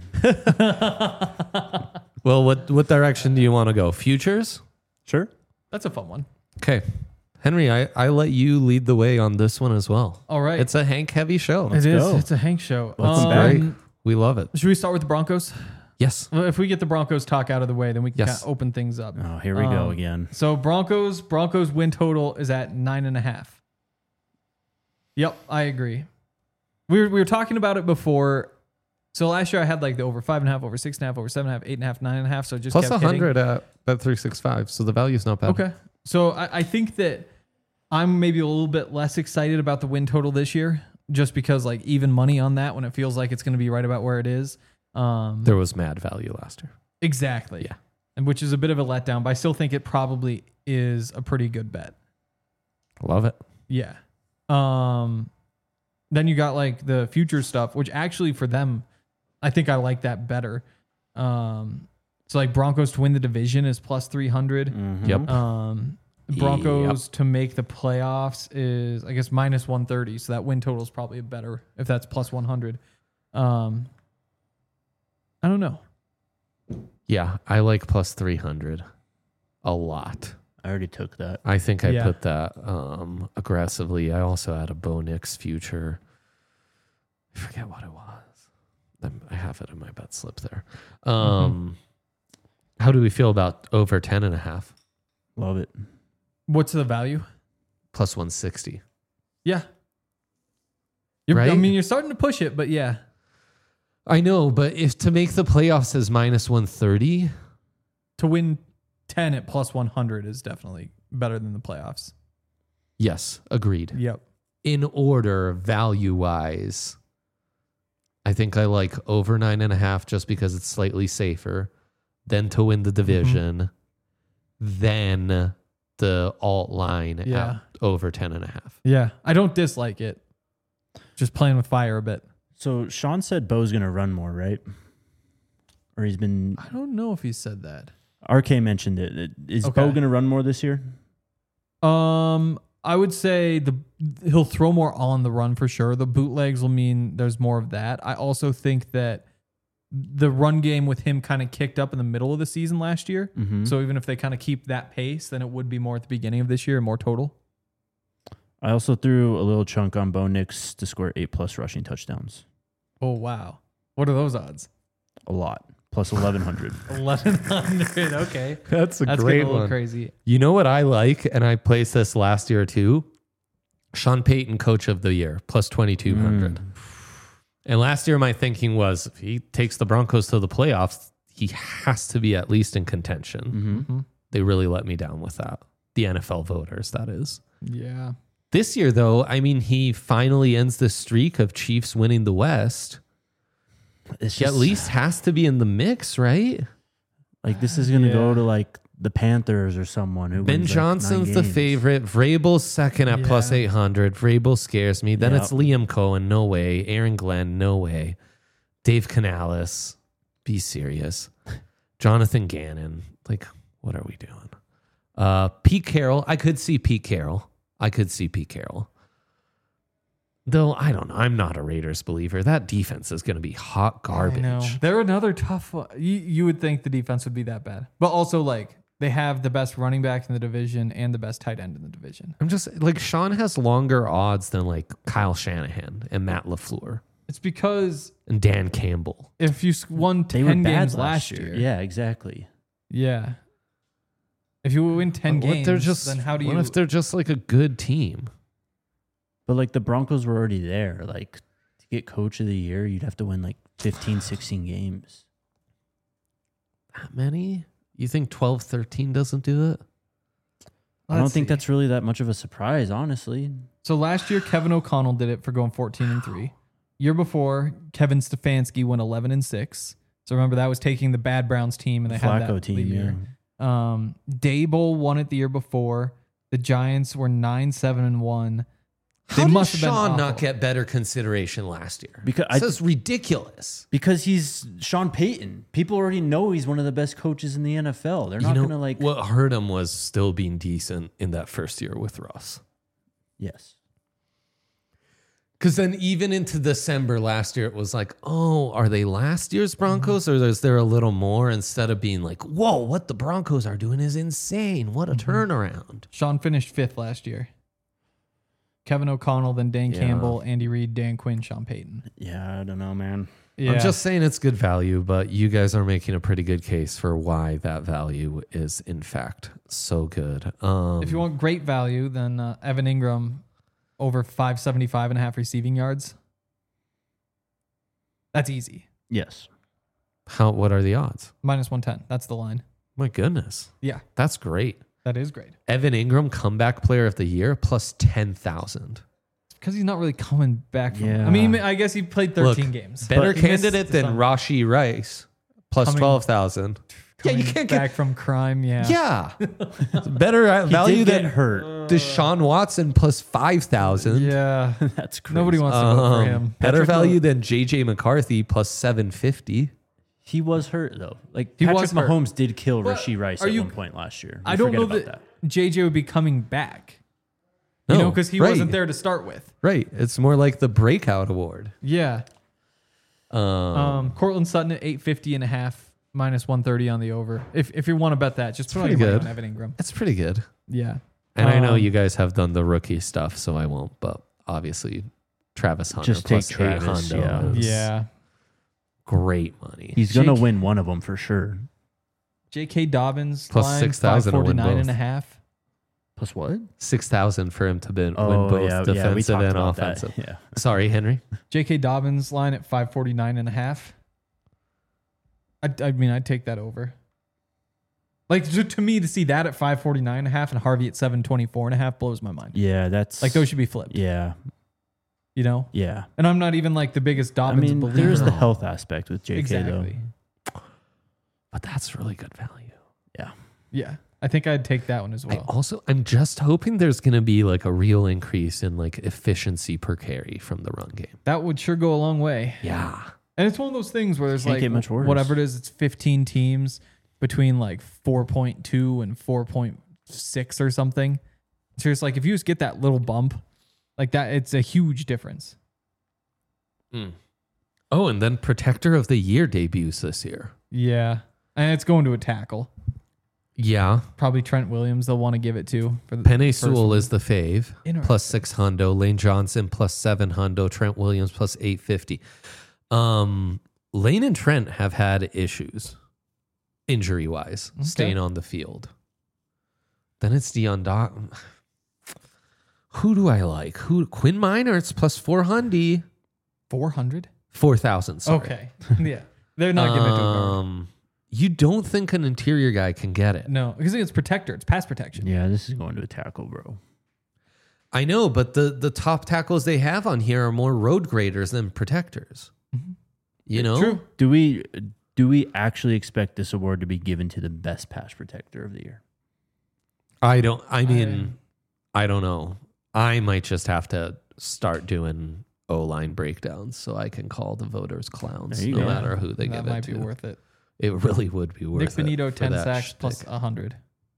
Well, what what direction do you want to go? Futures? Sure. That's a fun one. Okay. Henry, I, I let you lead the way on this one as well. All right. It's a Hank heavy show. It is. go. It's a Hank show. Let's Um, Great. We love it. Should we start with the Broncos? Yes. Well, if we get the Broncos talk out of the way, then we can Yes. kind of open things up. Oh, here we go Um, again. So Broncos, Broncos win total is at nine and a half. Yep, I agree. We were we were talking about it before. So last year I had like the over five and a half, over six and a half, over seven and a half, eight and a half, nine and a half. So it just Plus kept one hitting. hundred at Bet three sixty-five. So the value's not bad. Okay. So I, I think that I'm maybe a little bit less excited about the win total this year, just because like even money on that when it feels like it's going to be right about where it is. Um, There was mad value last year. exactly. Yeah. And which is a bit of a letdown, but I still think it probably is a pretty good bet. Love it. Yeah. Um, then you got like the future stuff, which actually for them, I think I like that better. Um, so like Broncos to win the division is plus three hundred. Mhm. Yep. Um, Broncos to make the playoffs is, I guess, minus one thirty. So that win total is probably better if that's plus one hundred. Um, I don't know. Yeah, I like plus three hundred a lot. I already took that. I think I Yeah. put that um, aggressively. I also had a Bo Nix future. I forget what it was. I'm- I have it in my bet slip there. Um, How do we feel about over ten and a half? Love it. What's the value? Plus one sixty. Yeah. You're, I Right? mean, you're starting to push it, but yeah. I know, but if to make the playoffs is minus one thirty, To win ten at plus one hundred is definitely better than the playoffs. yes, agreed. Yep. In order, value wise, I think I like over nine and a half just because it's slightly safer. Then to win the division, then the alt line Yeah. at over ten and a half. Yeah. I don't dislike it. Just playing with fire a bit. So Sean said Bo's gonna run more, right? Or he's been. I don't know if he said that. R K mentioned it. Is Okay. Bo gonna run more this year? Um, I would say the he'll throw more on the run for sure. The bootlegs will mean there's more of that. I also think that the run game with him kind of kicked up in the middle of the season last year. Mm-hmm. So even if they kind of keep that pace, then it would be more at the beginning of this year and more total. I also threw a little chunk on Bo Nix to score eight plus rushing touchdowns. Oh wow, what are those odds? A lot. Plus eleven hundred. eleven hundred. Okay, That's a that's great getting a little one. crazy. You know what I like, and I placed this last year too? Sean Payton, coach of the year, plus twenty-two hundred. Mm. And last year, my thinking was if he takes the Broncos to the playoffs, he has to be at least in contention. Mm-hmm. They really let me down with that. The N F L voters, that is. Yeah. This year, though, I mean, he finally ends the streak of Chiefs winning the West. It's He at just, least has to be in the mix, right? like this is gonna Yeah. go to like the Panthers or someone who Ben wins, like, nine Johnson's the games. favorite. Vrabel's second at plus Yeah. eight hundred. Vrabel scares me. Then Yep. it's Liam Cohen. No way. Aaron Glenn. No way. Dave Canales. Be serious. Jonathan Gannon. Like, what are we doing? Uh, Pete Carroll. I could see Pete Carroll. I could see Pete Carroll. Though, I don't know. I'm not a Raiders believer. That defense is going to be hot garbage. I know. They're another tough one. You, you would think the defense would be that bad. But also, like, they have the best running back in the division and the best tight end in the division. I'm just like, Sean has longer odds than like Kyle Shanahan and Matt LaFleur It's because and Dan Campbell. if you s- won They were ten bad games last year. Yeah, exactly. Yeah. If you win ten What if games, they're just, then how do what you... if they're just like a good team? But like the Broncos were already there. Like to get coach of the year, you'd have to win like fifteen, sixteen games. That many? You think twelve, thirteen doesn't do it? I don't Let's think see. that's really that much of a surprise, honestly. So last year, Kevin O'Connell did it for going fourteen and three. Year before, Kevin Stefanski went eleven and six. So remember that was taking the bad Browns team and they had Flacco that team, lead yeah. year. Um, Dable won it the year before. The Giants were nine seven and one. How They did must have been Sean not awful. get better consideration last year? Because I- this is ridiculous. Because he's Sean Payton. People already know he's one of the best coaches in the N F L. They're not you know, going to like. what hurt him was still being decent in that first year with Russ. Yes. Because then even into December last year, it was like, oh, are they last year's Broncos or is there a little more, instead of being like, whoa, what the Broncos are doing is insane. What a turnaround. Sean finished fifth last year. Kevin O'Connell, then Dan Yeah. Campbell, Andy Reid, Dan Quinn, Sean Payton. Yeah, I don't know, man. Yeah. I'm just saying it's good value, but you guys are making a pretty good case for why that value is, in fact, so good. Um, If you want great value, then uh, Evan Ingram over five seventy-five and a half receiving yards. That's easy. Yes. how, what are the odds? Minus one ten. That's the line. My goodness. Yeah, That's great. that is great. Evan Ingram, comeback player of the year, plus ten thousand. Because he's not really coming back from Yeah. I mean, I guess he played thirteen Look, games. Better But he missed candidate than some- Rashi Rice, plus Coming- twelve thousand. Yeah, you coming can't back get. from crime. Yeah. Yeah. Better uh, He value did get than hurt. Deshaun Watson, plus five thousand. Yeah. That's crazy. Nobody wants to vote for him. Better Patrick value Mah- than J J McCarthy, plus seven fifty. He was hurt though. Like He Patrick was hurt. Mahomes did kill But Rashee Rice are at you- one point last year. We I don't forget know about that, J J would be coming back. You No, know, because he right. wasn't there to start with. Right. It's more like the breakout award. Yeah. Um, Um, Cortland Sutton at eight fifty and a half, minus one thirty on the over. If if you want to bet that, just put all pretty your money good. on Evan Ingram. it's pretty good. Yeah. And I know Um, you guys have done the rookie stuff, so I won't. But obviously, Travis Hunter Just plus take eight Travis, hundo yeah. is Yeah. great money. He's gonna Jake- win one of them for sure. J K. Dobbins Plus line, six thousand to win five forty-nine and both. a half. Plus what? Six thousand for him to win, Oh win both yeah, yeah. We defensive talked and about that. offensive. Yeah. Sorry, Henry. J K. Dobbins line at five forty-nine and a half. I, I mean, I'd take that over. Like to, to me, to see that at five forty-nine and a half and Harvey at seven twenty-four and a half blows my mind. Yeah, that's Like those should be flipped, Yeah, you know? yeah. And I'm not even like the biggest I Dobbins mean, believer. there's the health aspect with J K Exactly. though. But that's really good value. Yeah. Yeah. I think I'd take that one as I well. also, I'm just hoping there's going to be like a real increase in like efficiency per carry from the run game. That would sure go a long way. Yeah. And it's one of those things where there's Can't like get much worse. whatever it is, it's fifteen teams between like four point two and four point six or something. So it's like if you just get that little bump, like that, it's a huge difference. Oh, and then Protector of the Year debuts this year. Yeah. And it's going to a tackle. Yeah. Probably Trent Williams they'll want to give it to. For the Penny first Sewell one. is the fave, Interesting. plus six hundo. Lane Johnson plus seven hundo. Trent Williams plus eight fifty. Um, Lane and Trent have had issues, injury wise, Okay. staying on the field. Then it's Deion Doc. Who do I like? Who Quinn Minor? It's plus four hundred. four hundred? Four thousand. Sorry. Okay. Yeah. They're not giving it to a guard. Um, you don't think an interior guy can get it? No, because it's protector. It's pass protection. Yeah, this is going to a tackle, bro. I know, but the the top tackles they have on here are more road graders than protectors. You know, True. Do we do we actually expect this award to be given to the best pass protector of the year? I don't. I mean, I, don't know. I might just have to start doing O line breakdowns so I can call the voters clowns, There you no go. matter who they That give might it be to. worth it. It really would be worth Nick it. Benito, for ten that sacks shtick. plus one hundred.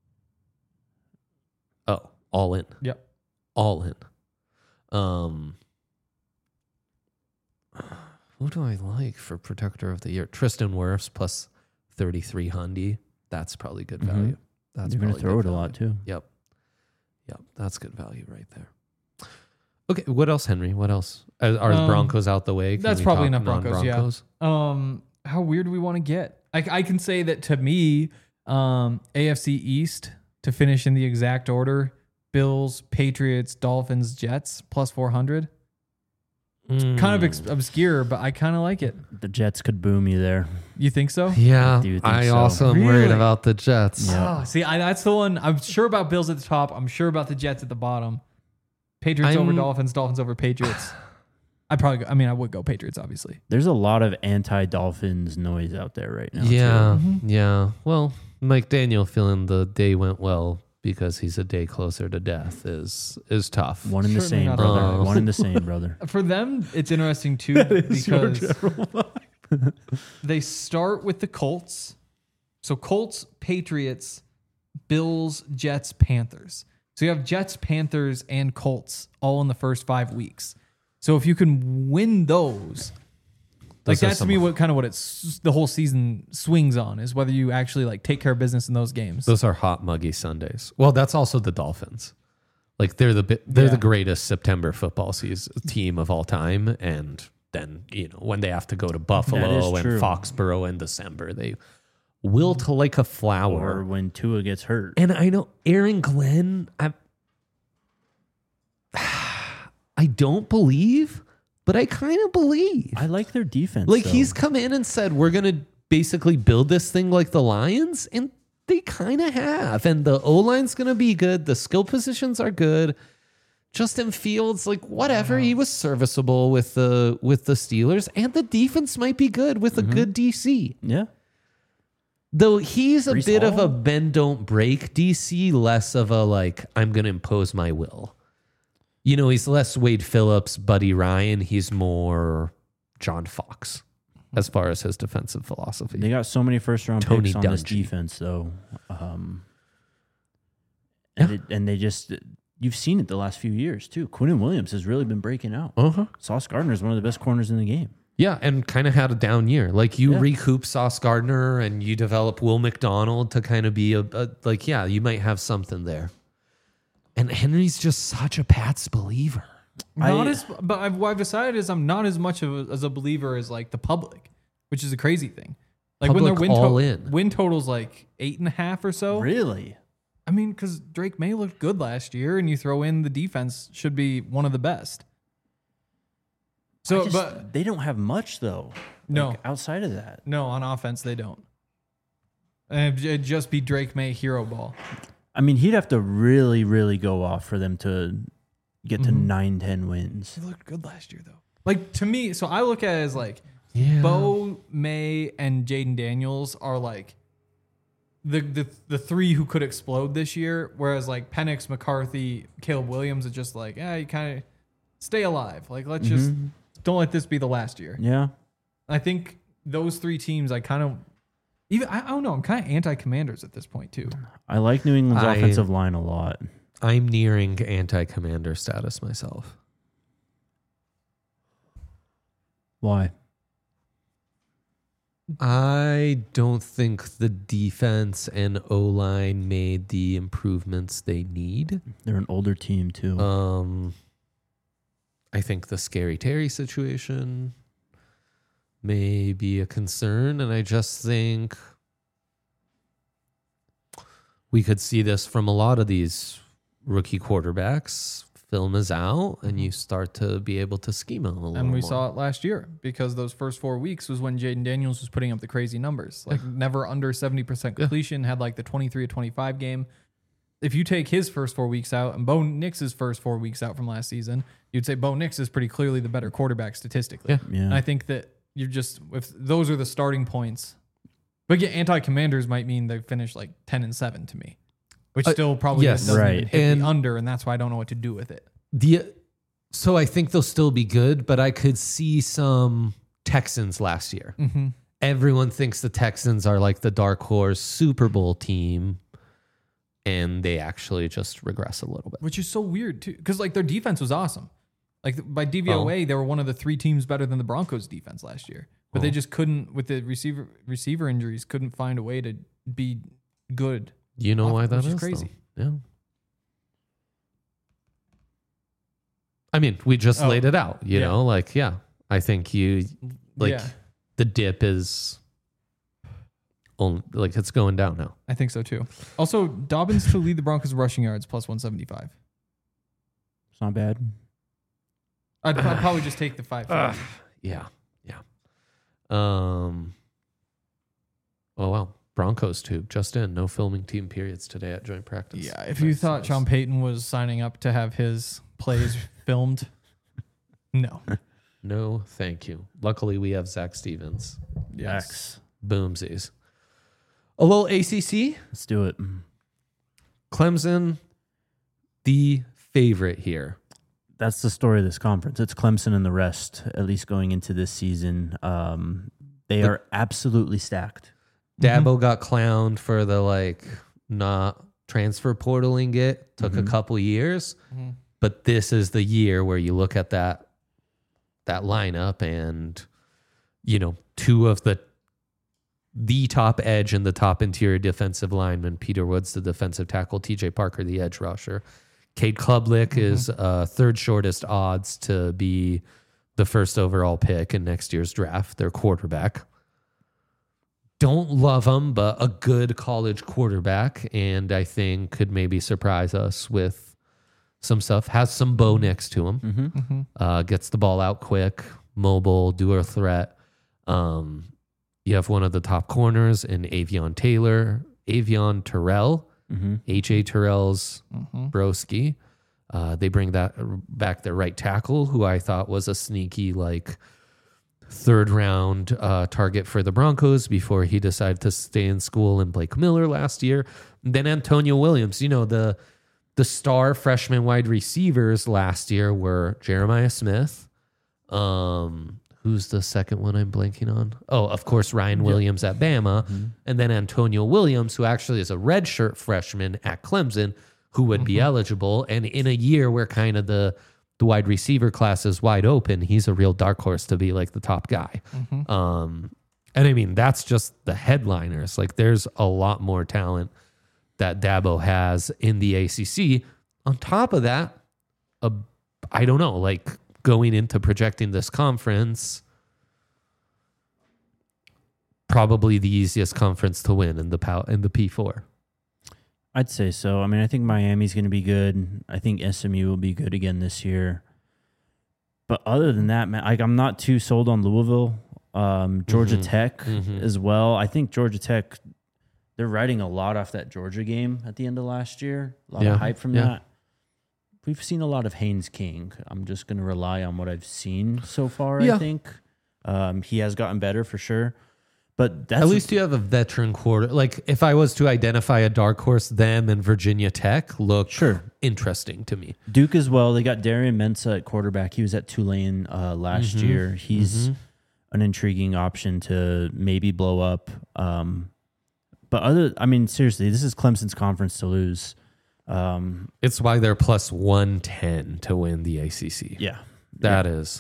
Oh, all in. Yep. All in. Um, who do I like for protector of the year? Tristan Wirfs plus thirty-three hundred. That's probably good Mhm. value. That's You're going to probably throw it good a lot value. too. Yep. Yep. That's good value right there. Okay. What else, Henry? What else? Are, are the Um, Broncos out the way? Can that's we probably talk enough Broncos, yeah. non-Broncos? Um, how weird do we want to get? I, I can say that to me, um, A F C East to finish in the exact order: Bills, Patriots, Dolphins, Jets plus four hundred. Kind of Mm. ex- obscure, but I kind of like it. The Jets could boom you there. You think so? Yeah. do think I so. also am worried Really? about the Jets. Yeah. Oh, see, I, that's the one. I'm sure about Bills at the top. I'm sure about the Jets at the bottom. Patriots over I'm- Dolphins, Dolphins over Patriots. I'd probably go, I mean, I would go Patriots, obviously. There's a lot of anti-Dolphins noise out there right now. Yeah, too. yeah. Well, Mike Daniel feeling the day went well because he's a day closer to death is is tough. One and the Certainly same, not brother. all. One and the same, brother. For them, it's interesting too because they start with the Colts. So Colts, Patriots, Bills, Jets, Panthers. So you have Jets, Panthers, and Colts all in the first five weeks. So if you can win those, like Those are that's to some- me what kind of what it's the whole season swings on is whether you actually like take care of business in those games. Those are hot, muggy Sundays. Well, that's also the Dolphins. Like they're the bi- they're Yeah. the greatest September football season team of all time, and then you know when they have to go to Buffalo and true. Foxborough in December, they wilt like a flower. Or when Tua gets hurt. And I know Aaron Glenn, I I don't believe, but I kind of believe. I like their defense. Like though. he's come in and said, we're going to basically build this thing like the Lions. And they kind of have. And the O-line's going to be good. The skill positions are good. Justin Fields, like whatever, he was serviceable with the with the Steelers. And the defense might be good with a good D C. Yeah. Though he's a Brees bit of Hall? a bend don't break D C, less of a like, I'm going to impose my will. You know, he's less Wade Phillips, Buddy Ryan. He's more John Fox as far as his defensive philosophy. They got so many first round Tony picks on this Dungy. defense, though. Um, and, Yeah. it, and they just, you've seen it the last few years, too. Quinnen Williams has really been breaking out. Uh-huh. Sauce Gardner is one of the best corners in the game. Yeah, and kind of had a down year. Like you Yeah. recoup Sauce Gardner and you develop Will McDonald to kind of be a, a like, yeah, you might have something there. And Henry's just such a Pats believer. Not I- as, but I've, what I've decided is I'm not as much of a, as a believer as like the public, which is a crazy thing. Like when their Public win, all to- in. win total's like eight and a half or so. Really? I mean, because Drake May looked good last year, and you throw in the defense should be one of the best. So, I just- but they don't have much, though. No. Like, outside of that. no, on offense they don't. And it'd just be Drake May hero ball. I mean, he'd have to really, really go off for them to get to nine, ten wins. He looked good last year though. Like to me, so I look at it as like Yeah. Bo, May, and Jaden Daniels are like the, the the three who could explode this year. Whereas like Penix, McCarthy, Caleb Williams are just like, yeah, you kind of stay alive. Like let's just don't let this be the last year. Yeah. I think those three teams, I kind of even I, I don't know. I'm kind of anti-Commanders at this point too. I like New England's I- offensive line a lot. I'm nearing anti-commander status myself. Why? I don't think the defense and O-line made the improvements they need. They're an older team, too. Um, I think the Scary Terry situation may be a concern, and I just think we could see this from a lot of these rookie quarterbacks. Film is out, and you start to be able to scheme them a little And we more. saw it last year because those first four weeks was when Jaden Daniels was putting up the crazy numbers. Like never under seventy percent completion, had like the twenty-three to twenty-five game. If you take his first four weeks out and Bo Nix's first four weeks out from last season, you'd say Bo Nix is pretty clearly the better quarterback statistically. Yeah. yeah. And I think that you're just, if those are the starting points, but yeah, anti-commanders might mean they finish like ten and seven to me, which Uh, still probably yes. doesn't Right. even hit And- the under. And that's why I don't know what to do with it. The so I think they'll still be good, but I could see some Texans last year. Mm-hmm. Everyone thinks the Texans are like the dark horse Super Bowl team, and they actually just regress a little bit. Which is so weird too, because like their defense was awesome. Like by D V O A, they were one of the three teams better than the Broncos defense last year, but they Oh. just couldn't with the receiver receiver injuries, couldn't find a way to be good. You know why that Which is is crazy. though? Yeah. I mean, we just Oh. laid it out. You Yeah. know, like yeah, I think you like Yeah. the dip is on like it's going down now. I think so too. Also, Dobbins to lead the Broncos rushing yards plus one seventy-five. It's not bad. I'd, I'd probably just take the five. Yeah, yeah. Um. Oh wow, Broncos too. Just in, no filming team periods today at joint practice. Yeah, if you Nice, thought nice. Sean Payton was signing up to have his plays filmed, no. No, thank you. Luckily, we have Zach Stevens. Yes. Boomsies. A little A C C. Let's do it. Clemson, the favorite here. That's the story of this conference. It's Clemson and the rest, at least going into this season. Um, they The- are absolutely stacked. Dabo got clowned for the like not transfer portaling it. Took a couple years, but this is the year where you look at that that lineup and you know two of the the top edge and the top interior defensive lineman, Peter Woods, the defensive tackle, T J Parker, the edge rusher. Cade Klubnik is uh, third shortest odds to be the first overall pick in next year's draft. Their quarterback. Don't love him, but a good college quarterback, and I think could maybe surprise us with some stuff. Has some bow next to him. Mm-hmm. Uh, gets the ball out quick, mobile, dual threat. Um, you have one of the top corners in Avion Taylor, Avion Terrell, Mm-hmm. H A Terrell's broski. Uh, they bring that back their right tackle, who I thought was a sneaky like third round uh, target for the Broncos before he decided to stay in school in Blake Miller last year. And then Antonio Williams, you know, the the star freshman wide receivers last year were Jeremiah Smith. Um, who's the second one I'm blanking on? Oh, of course, Ryan Williams at Bama. Mm-hmm. And then Antonio Williams, who actually is a redshirt freshman at Clemson, who would be eligible. And in a year where kind of the the wide receiver class is wide open, he's a real dark horse to be like the top guy. Um, and I mean, that's just the headliners. Like there's a lot more talent that Dabo has in the A C C. On top of that, a, I don't know, like going into projecting this conference, probably the easiest conference to win in the pow- in the P four. I'd say so. I mean, I think Miami's going to be good. I think S M U will be good again this year. But other than that, man, like, I'm not too sold on Louisville. Um, Georgia Mhm. Tech Mhm. as well. I think Georgia Tech, they're riding a lot off that Georgia game at the end of last year. A lot Yeah. of hype from Yeah. that. We've seen a lot of Haynes King. I'm just going to rely on what I've seen so far, Yeah. I think. Um, he has gotten better for sure. But that's At least you have a veteran quarter. Like if I was to identify a dark horse, them and Virginia Tech look Sure. interesting to me. Duke as well. They got Darian Mensah at quarterback. He was at Tulane uh, last Mhm. year. He's Mhm. an intriguing option to maybe blow up. Um, but other, I mean, seriously, this is Clemson's conference to lose. Um, It's why they're plus one ten to win the A C C. yeah, That is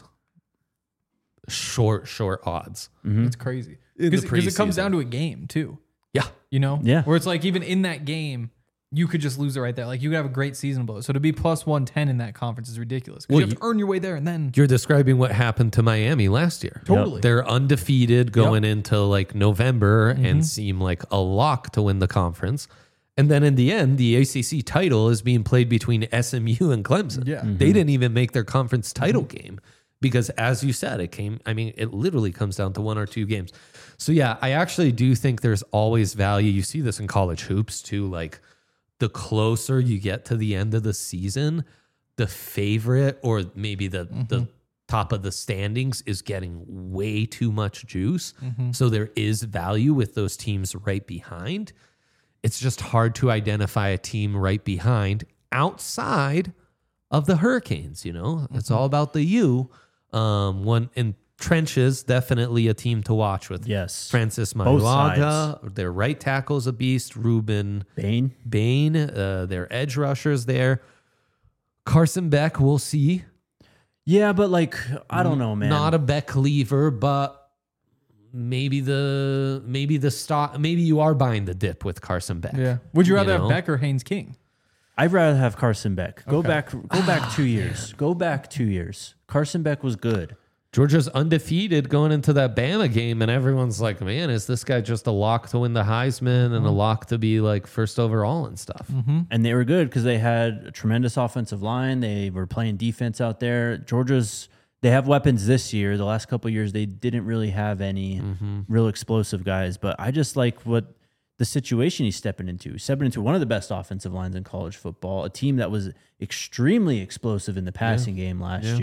short, short odds. Mhm. It's crazy In the because it comes preseason. down to a game too. Yeah. You know, Yeah. where it's like even in that game, you could just lose it right there. Like you could have a great season blow. So to be plus one ten in that conference is ridiculous. 'Cause Well, you have you- to earn your way there, and then You're describing what happened to Miami last year. totally. They're undefeated going into like November Mm-hmm. and seem like a lock to win the conference. And then in the end, the A C C title is being played between S M U and Clemson. Yeah. They didn't even make their conference title game because, as you said, it came, I mean, it literally comes down to one or two games. So, yeah, I actually do think there's always value. You see this in college hoops too. Like the closer you get to the end of the season, the favorite or maybe the, the top of the standings is getting way too much juice. So, there is value with those teams right behind. It's just hard to identify a team right behind outside of the Hurricanes. You know, it's all about the U. Um, one in trenches, definitely a team to watch with. Yes. Francis Both Mailaga, their right tackle's a beast. Ruben Bain. Bain, uh, their edge rushers there. Carson Beck, we'll see. Yeah, but like, I don't know, man. Not a Beck lever, but maybe the maybe the stock maybe you are buying the dip with Carson Beck. yeah. Would you rather know? have Beck or Haynes King? I'd rather have Carson Beck. Go Okay. back, go back two years. Go back two years. Carson Beck was good. Georgia's undefeated going into that Bama game, and everyone's like, man, is this guy just a lock to win the Heisman and a lock to be like first overall and stuff? And they were good because they had a tremendous offensive line. They were playing defense out there. Georgia's, they have weapons this year. The last couple of years, they didn't really have any real explosive guys. But I just like what the situation he's stepping into. He's stepping into one of the best offensive lines in college football, a team that was extremely explosive in the passing game last Yeah. year.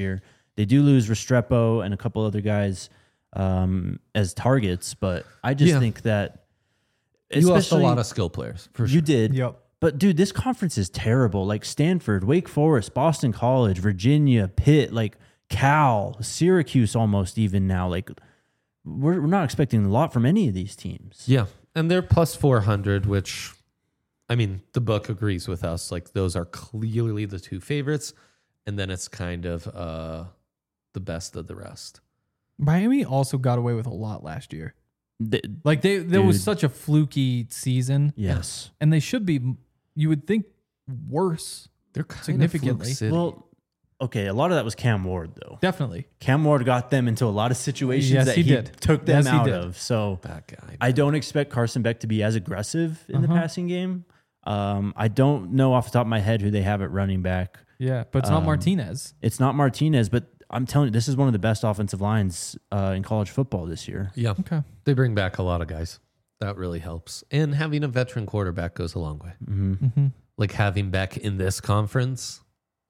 They do lose Restrepo and a couple other guys um, as targets, but I just Yeah. think that You lost a especially- lot of skill players for sure. You did. Yep. But dude, this conference is terrible. Like Stanford, Wake Forest, Boston College, Virginia, Pitt, like Cal, Syracuse almost even now. Like we're, we're not expecting a lot from any of these teams. Yeah. And they're plus four hundred, which, I mean, the book agrees with us. Like, those are clearly the two favorites. And then it's kind of uh, the best of the rest. Miami also got away with a lot last year. Th- Like they, there was Dude. such a fluky season, yes. and they should be. You would think worse. They're kind Significantly. of Fluke City. Well, okay. A lot of that was Cam Ward, though. Definitely. Cam Ward got them into a lot of situations Yes, that he he, did. took them Yes, he out did. of. So that guy. I don't expect Carson Beck to be as aggressive in the Uh-huh. passing game. Um, I don't know off the top of my head who they have at running back. Yeah, but it's not Um, Martinez. It's not Martinez, but I'm telling you, this is one of the best offensive lines uh, in college football this year. Yeah. Okay. They bring back a lot of guys. That really helps. And having a veteran quarterback goes a long way. Mm-hmm. Like having Beck in this conference,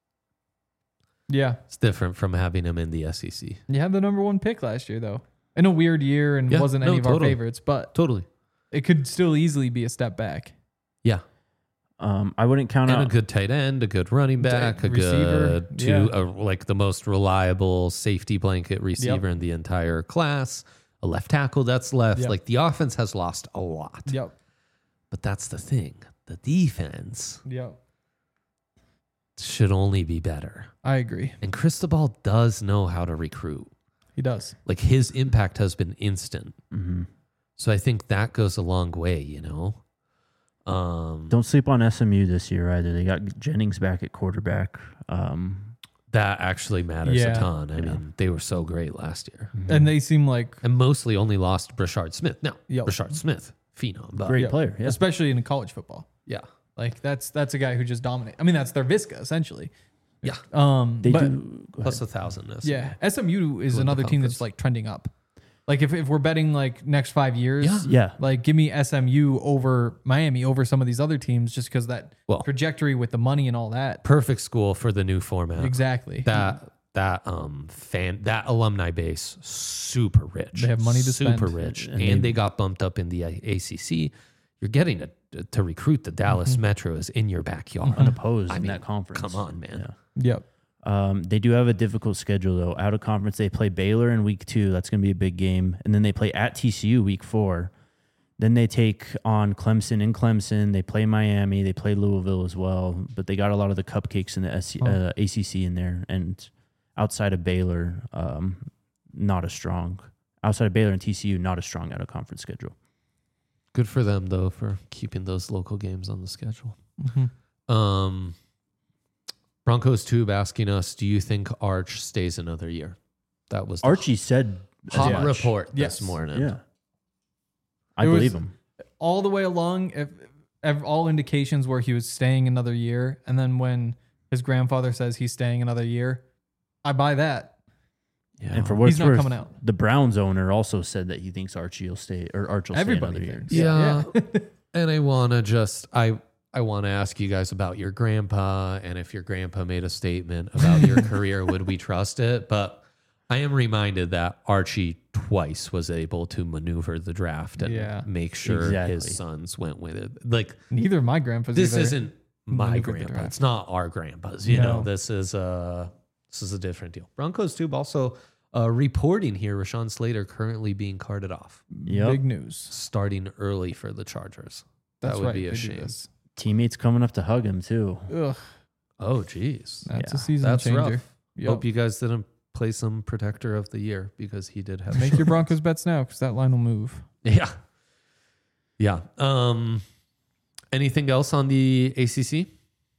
Yeah, it's different from having him in the S E C. you had the number one pick last year, though, in a weird year, and Yeah, wasn't no, any of our totally. favorites, but Totally. it could still easily be a step back. Yeah. Um, I wouldn't count And a out. good tight end, a good running back, a receiver, good two, yeah. a, like the most reliable safety blanket receiver in the entire class, a left tackle that's left. Yep. Like the offense has lost a lot. Yep. But that's the thing. The defense Yep. should only be better. I agree. And Cristobal does know how to recruit. He does. Like his impact has been instant. Mhm. So I think that goes a long way, you know? Um, Don't sleep on S M U this year either. They got Jennings back at quarterback. Um, that actually matters Yeah. a ton. I Yeah. mean, they were so great last year. And they seem like And mostly only lost Brashard Smith. No, Yep. Brashard Smith, phenom. But Great yeah, player, yeah. especially in college football. yeah. Like that's that's a guy who just dominates. I mean, that's their Visca essentially. Yeah. Um, They but do. Go Plus ahead. a thousand. yeah, S M U is Win the another team that's conference. like trending up. Like if, if we're betting like next five years, Yeah. Yeah. like give me S M U over Miami over some of these other teams just because that Well- trajectory with the money and all that. Perfect school for the new format. Exactly. That that um fan that alumni base super rich. They have money to super spend. rich, And and, they- they got bumped up in the A C C. You're getting to to recruit the Dallas Mm-hmm. Metros in your backyard. Unopposed I in mean, that conference. come on, man. Yep. Um, they do have a difficult schedule though. Out of conference, they play Baylor in week two. That's going to be a big game, and then they play at T C U week four. Then they take on Clemson in Clemson. They play Miami. They play Louisville as well. But they got a lot of the cupcakes in the S C, Oh. uh, A C C in there. And outside of Baylor, um, not as strong. Outside of Baylor and T C U, not as strong out of conference schedule. Good for them though for keeping those local games on the schedule. Mhm. Um, Broncos Tube asking us, do you think Arch stays another year? That was the Archie said as hot much. report Yes. this morning. Yeah, I It was- believe him. All the way along, if, if all indications were he was staying another year, and then when his grandfather says he's staying another year, I buy that. Yeah. And for what He's it's not worth, coming out. the Browns owner also said that he thinks Archie will stay or Arch will Everybody stay another thinks. year. Yeah. Yeah. And I want to just, I, I want to ask you guys about your grandpa. And if your grandpa made a statement about your career, would we trust it? But I am reminded that Archie twice was able to maneuver the draft and Yeah. make sure Exactly. his sons went with it. Like, Neither of my grandpas. this either. isn't my maneuvered the grandpa. draft. It's not our grandpas. You No. know, this is a, this is a different deal. Broncos Tube also uh, reporting here, Rashawn Slater currently being carted off, Yep. Big news. starting early for the Chargers. That's that would right. be a they do shame. this. Teammates coming up to hug him too. Ugh, Oh, geez. that's Yeah, a season That's changer. rough. Yep. Hope you guys didn't play some protector of the year because he did have Make your Broncos bets now because that line will move. yeah. Yeah. Um anything else on the A C C?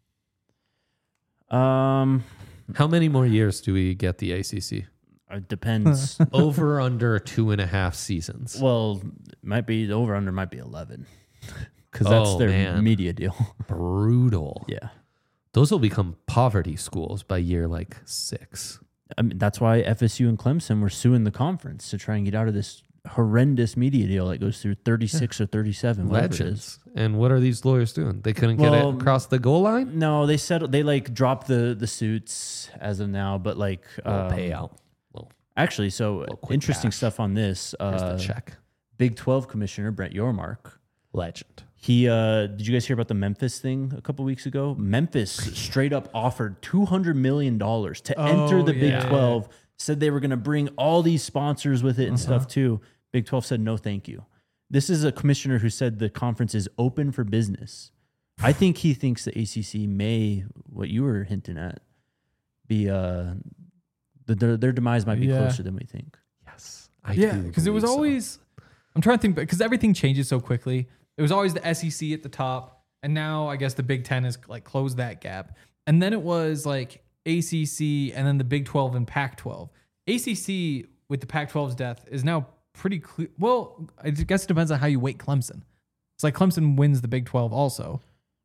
Um, How many more years do we get the A C C? it depends. Over under two and a half seasons. well, it might be over under might be eleven because that's Oh, their man. media deal. Brutal. yeah, Those will become poverty schools by year like six. I mean that's why F S U and Clemson were suing the conference to try and get out of this horrendous media deal that goes through thirty-six or thirty-seven. whatever it is. Legends. And what are these lawyers doing? They couldn't get Well, it across the goal line? No, they settled. They like dropped the the suits as of now, but like Little um, payout. Little, Actually, so Little quick interesting cash. stuff on this. here's Uh, the check. Big twelve commissioner Brent Yormark. Legend. He uh, did you guys hear about the Memphis thing a couple weeks ago? Memphis straight up offered two hundred million dollars to Oh, enter the yeah. Big twelve. Said they were going to bring all these sponsors with it and stuff too. Big twelve said no, thank you. This is a commissioner who said the conference is open for business. I think he thinks the A C C may, what you were hinting at, be uh, the, their their demise might be Yeah. closer than we think. Yes. I Yeah, do because it was believe so. always. I'm trying to think, because everything changes so quickly. It was always the S E C at the top, and now I guess the Big Ten has like closed that gap. And then it was like A C C, and then the Big twelve and Pac twelve. A C C with the Pac twelve's death is now pretty clear. Well, I guess it depends on how you weight Clemson. It's like Clemson wins the Big twelve also,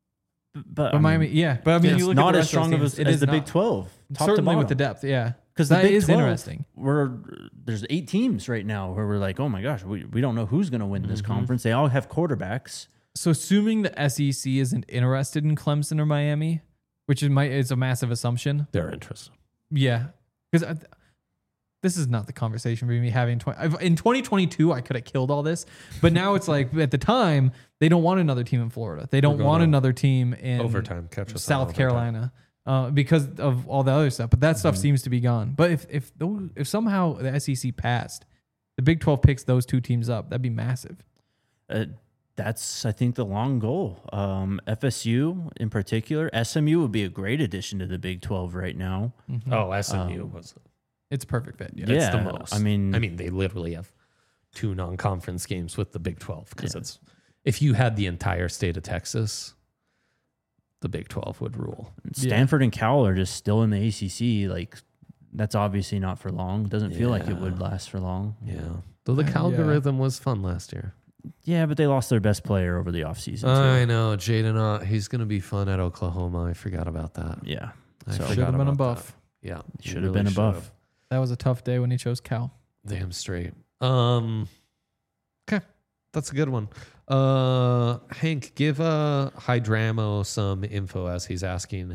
But, but I Miami, mean, yeah. But I mean, it's you look not at the as rest of those strong of teams, as, it as is the not. Big twelve. Top Certainly to bottom. with the depth, yeah. Because the That Big is twelve, interesting. We're there's eight teams right now where we're like, oh my gosh, we, we don't know who's going to win this conference. They all have quarterbacks. So assuming the S E C isn't interested in Clemson or Miami, which is my is a massive assumption. They're interested. Yeah, because this is not the conversation we're gonna be having. twenty I've- In twenty twenty-two, I could have killed all this, but now it's like at the time they don't want another team in Florida. They don't going want on another team in Overtime. Catch us on South overtime. Carolina uh, because of all the other stuff. But that stuff Mm-hmm. seems to be gone. But if if those, if somehow the S E C passed, the Big twelve picks those two teams up, that'd be massive. Uh, that's, I think, the long goal. Um, F S U in particular, S M U would be a great addition to the Big twelve right now. Oh, S M U Um, was. It's a perfect fit. Yeah. Yeah, It's the most. I mean, I mean, they literally have two non-conference games with the Big twelve because it's if you had the entire state of Texas, the Big twelve would rule. Stanford and Cal are just still in the A C C. Like, that's obviously not for long. Doesn't feel like it Yeah. would last for long. Yeah. Though the Uh, yeah. Calgorithm was fun last year. Yeah, but they lost their best player over the offseason. too. I know. Jaden Ott, he's going to be fun at Oklahoma. I forgot about that. yeah. I So- forgot Should have been a about buff. that. Yeah. he Should have been a buff. should've. That was a tough day when he chose Cal. Damn straight. Um, okay, that's a good one. Uh, Hank, give uh Hydramo some info as he's asking.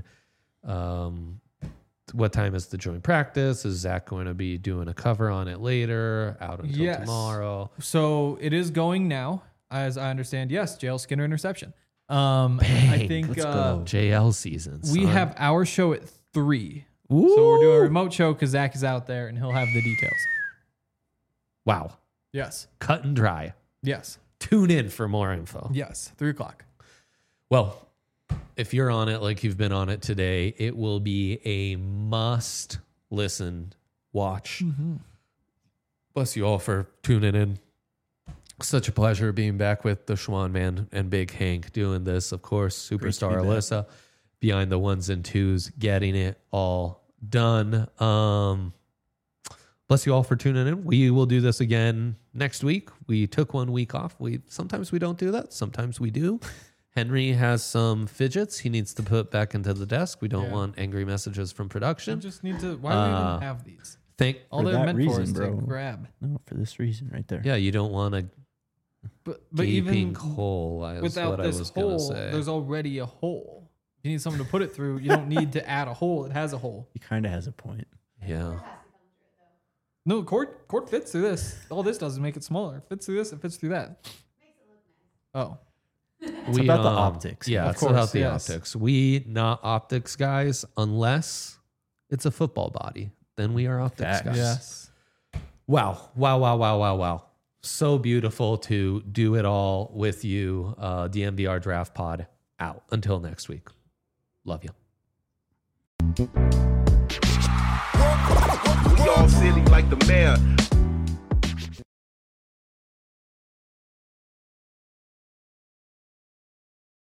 Um, what time is the joint practice? Is Zach going to be doing a cover on it later? Out until Yes. tomorrow? So it is going now, as I understand. Yes, J L Skinner interception. Um, I Bang, think let's uh, go. J L season. we son. have our show at three. Ooh. So we're doing a remote show because Zach is out there and he'll have the details. Wow, Yes. cut and dry. Yes. Tune in for more info. Yes. Three o'clock. Well, if you're on it like you've been on it today, it will be a must listen, watch. Bless you all for tuning in. Such a pleasure being back with the Schwan Man and Big Hank doing this. Of course, superstar be back. Alyssa behind the ones and twos, getting it all done. Um, bless you all for tuning in. We will do this again next week. We took one week off. We sometimes we don't do that. Sometimes we do. Henry has some fidgets he needs to put back into the desk. We don't Yeah. want angry messages from You production. just need to. Why do we Uh, even have these? Thank All for they're that meant for reason, is bro. to grab. No, for this reason right there. yeah, you don't want a But but gaping even hole. Is without what I this was gonna hole, say. there's already a hole. You need something to put it through. You don't need to add a hole. It has a hole. He kind of has a point. Yeah. No, cord cord fits through this. All this does is make it smaller. It fits through this. It fits through that. Oh, It's about the optics. Yeah, Of it's course, about the yes. optics. We not optics guys unless it's a football body. Then we are optics Facts. guys. yes. Wow. Wow, wow, wow, wow, wow. So beautiful to do it all with you. Uh, D M V R Draft Pod out. Until next week. Love you. We all silly like the mayor.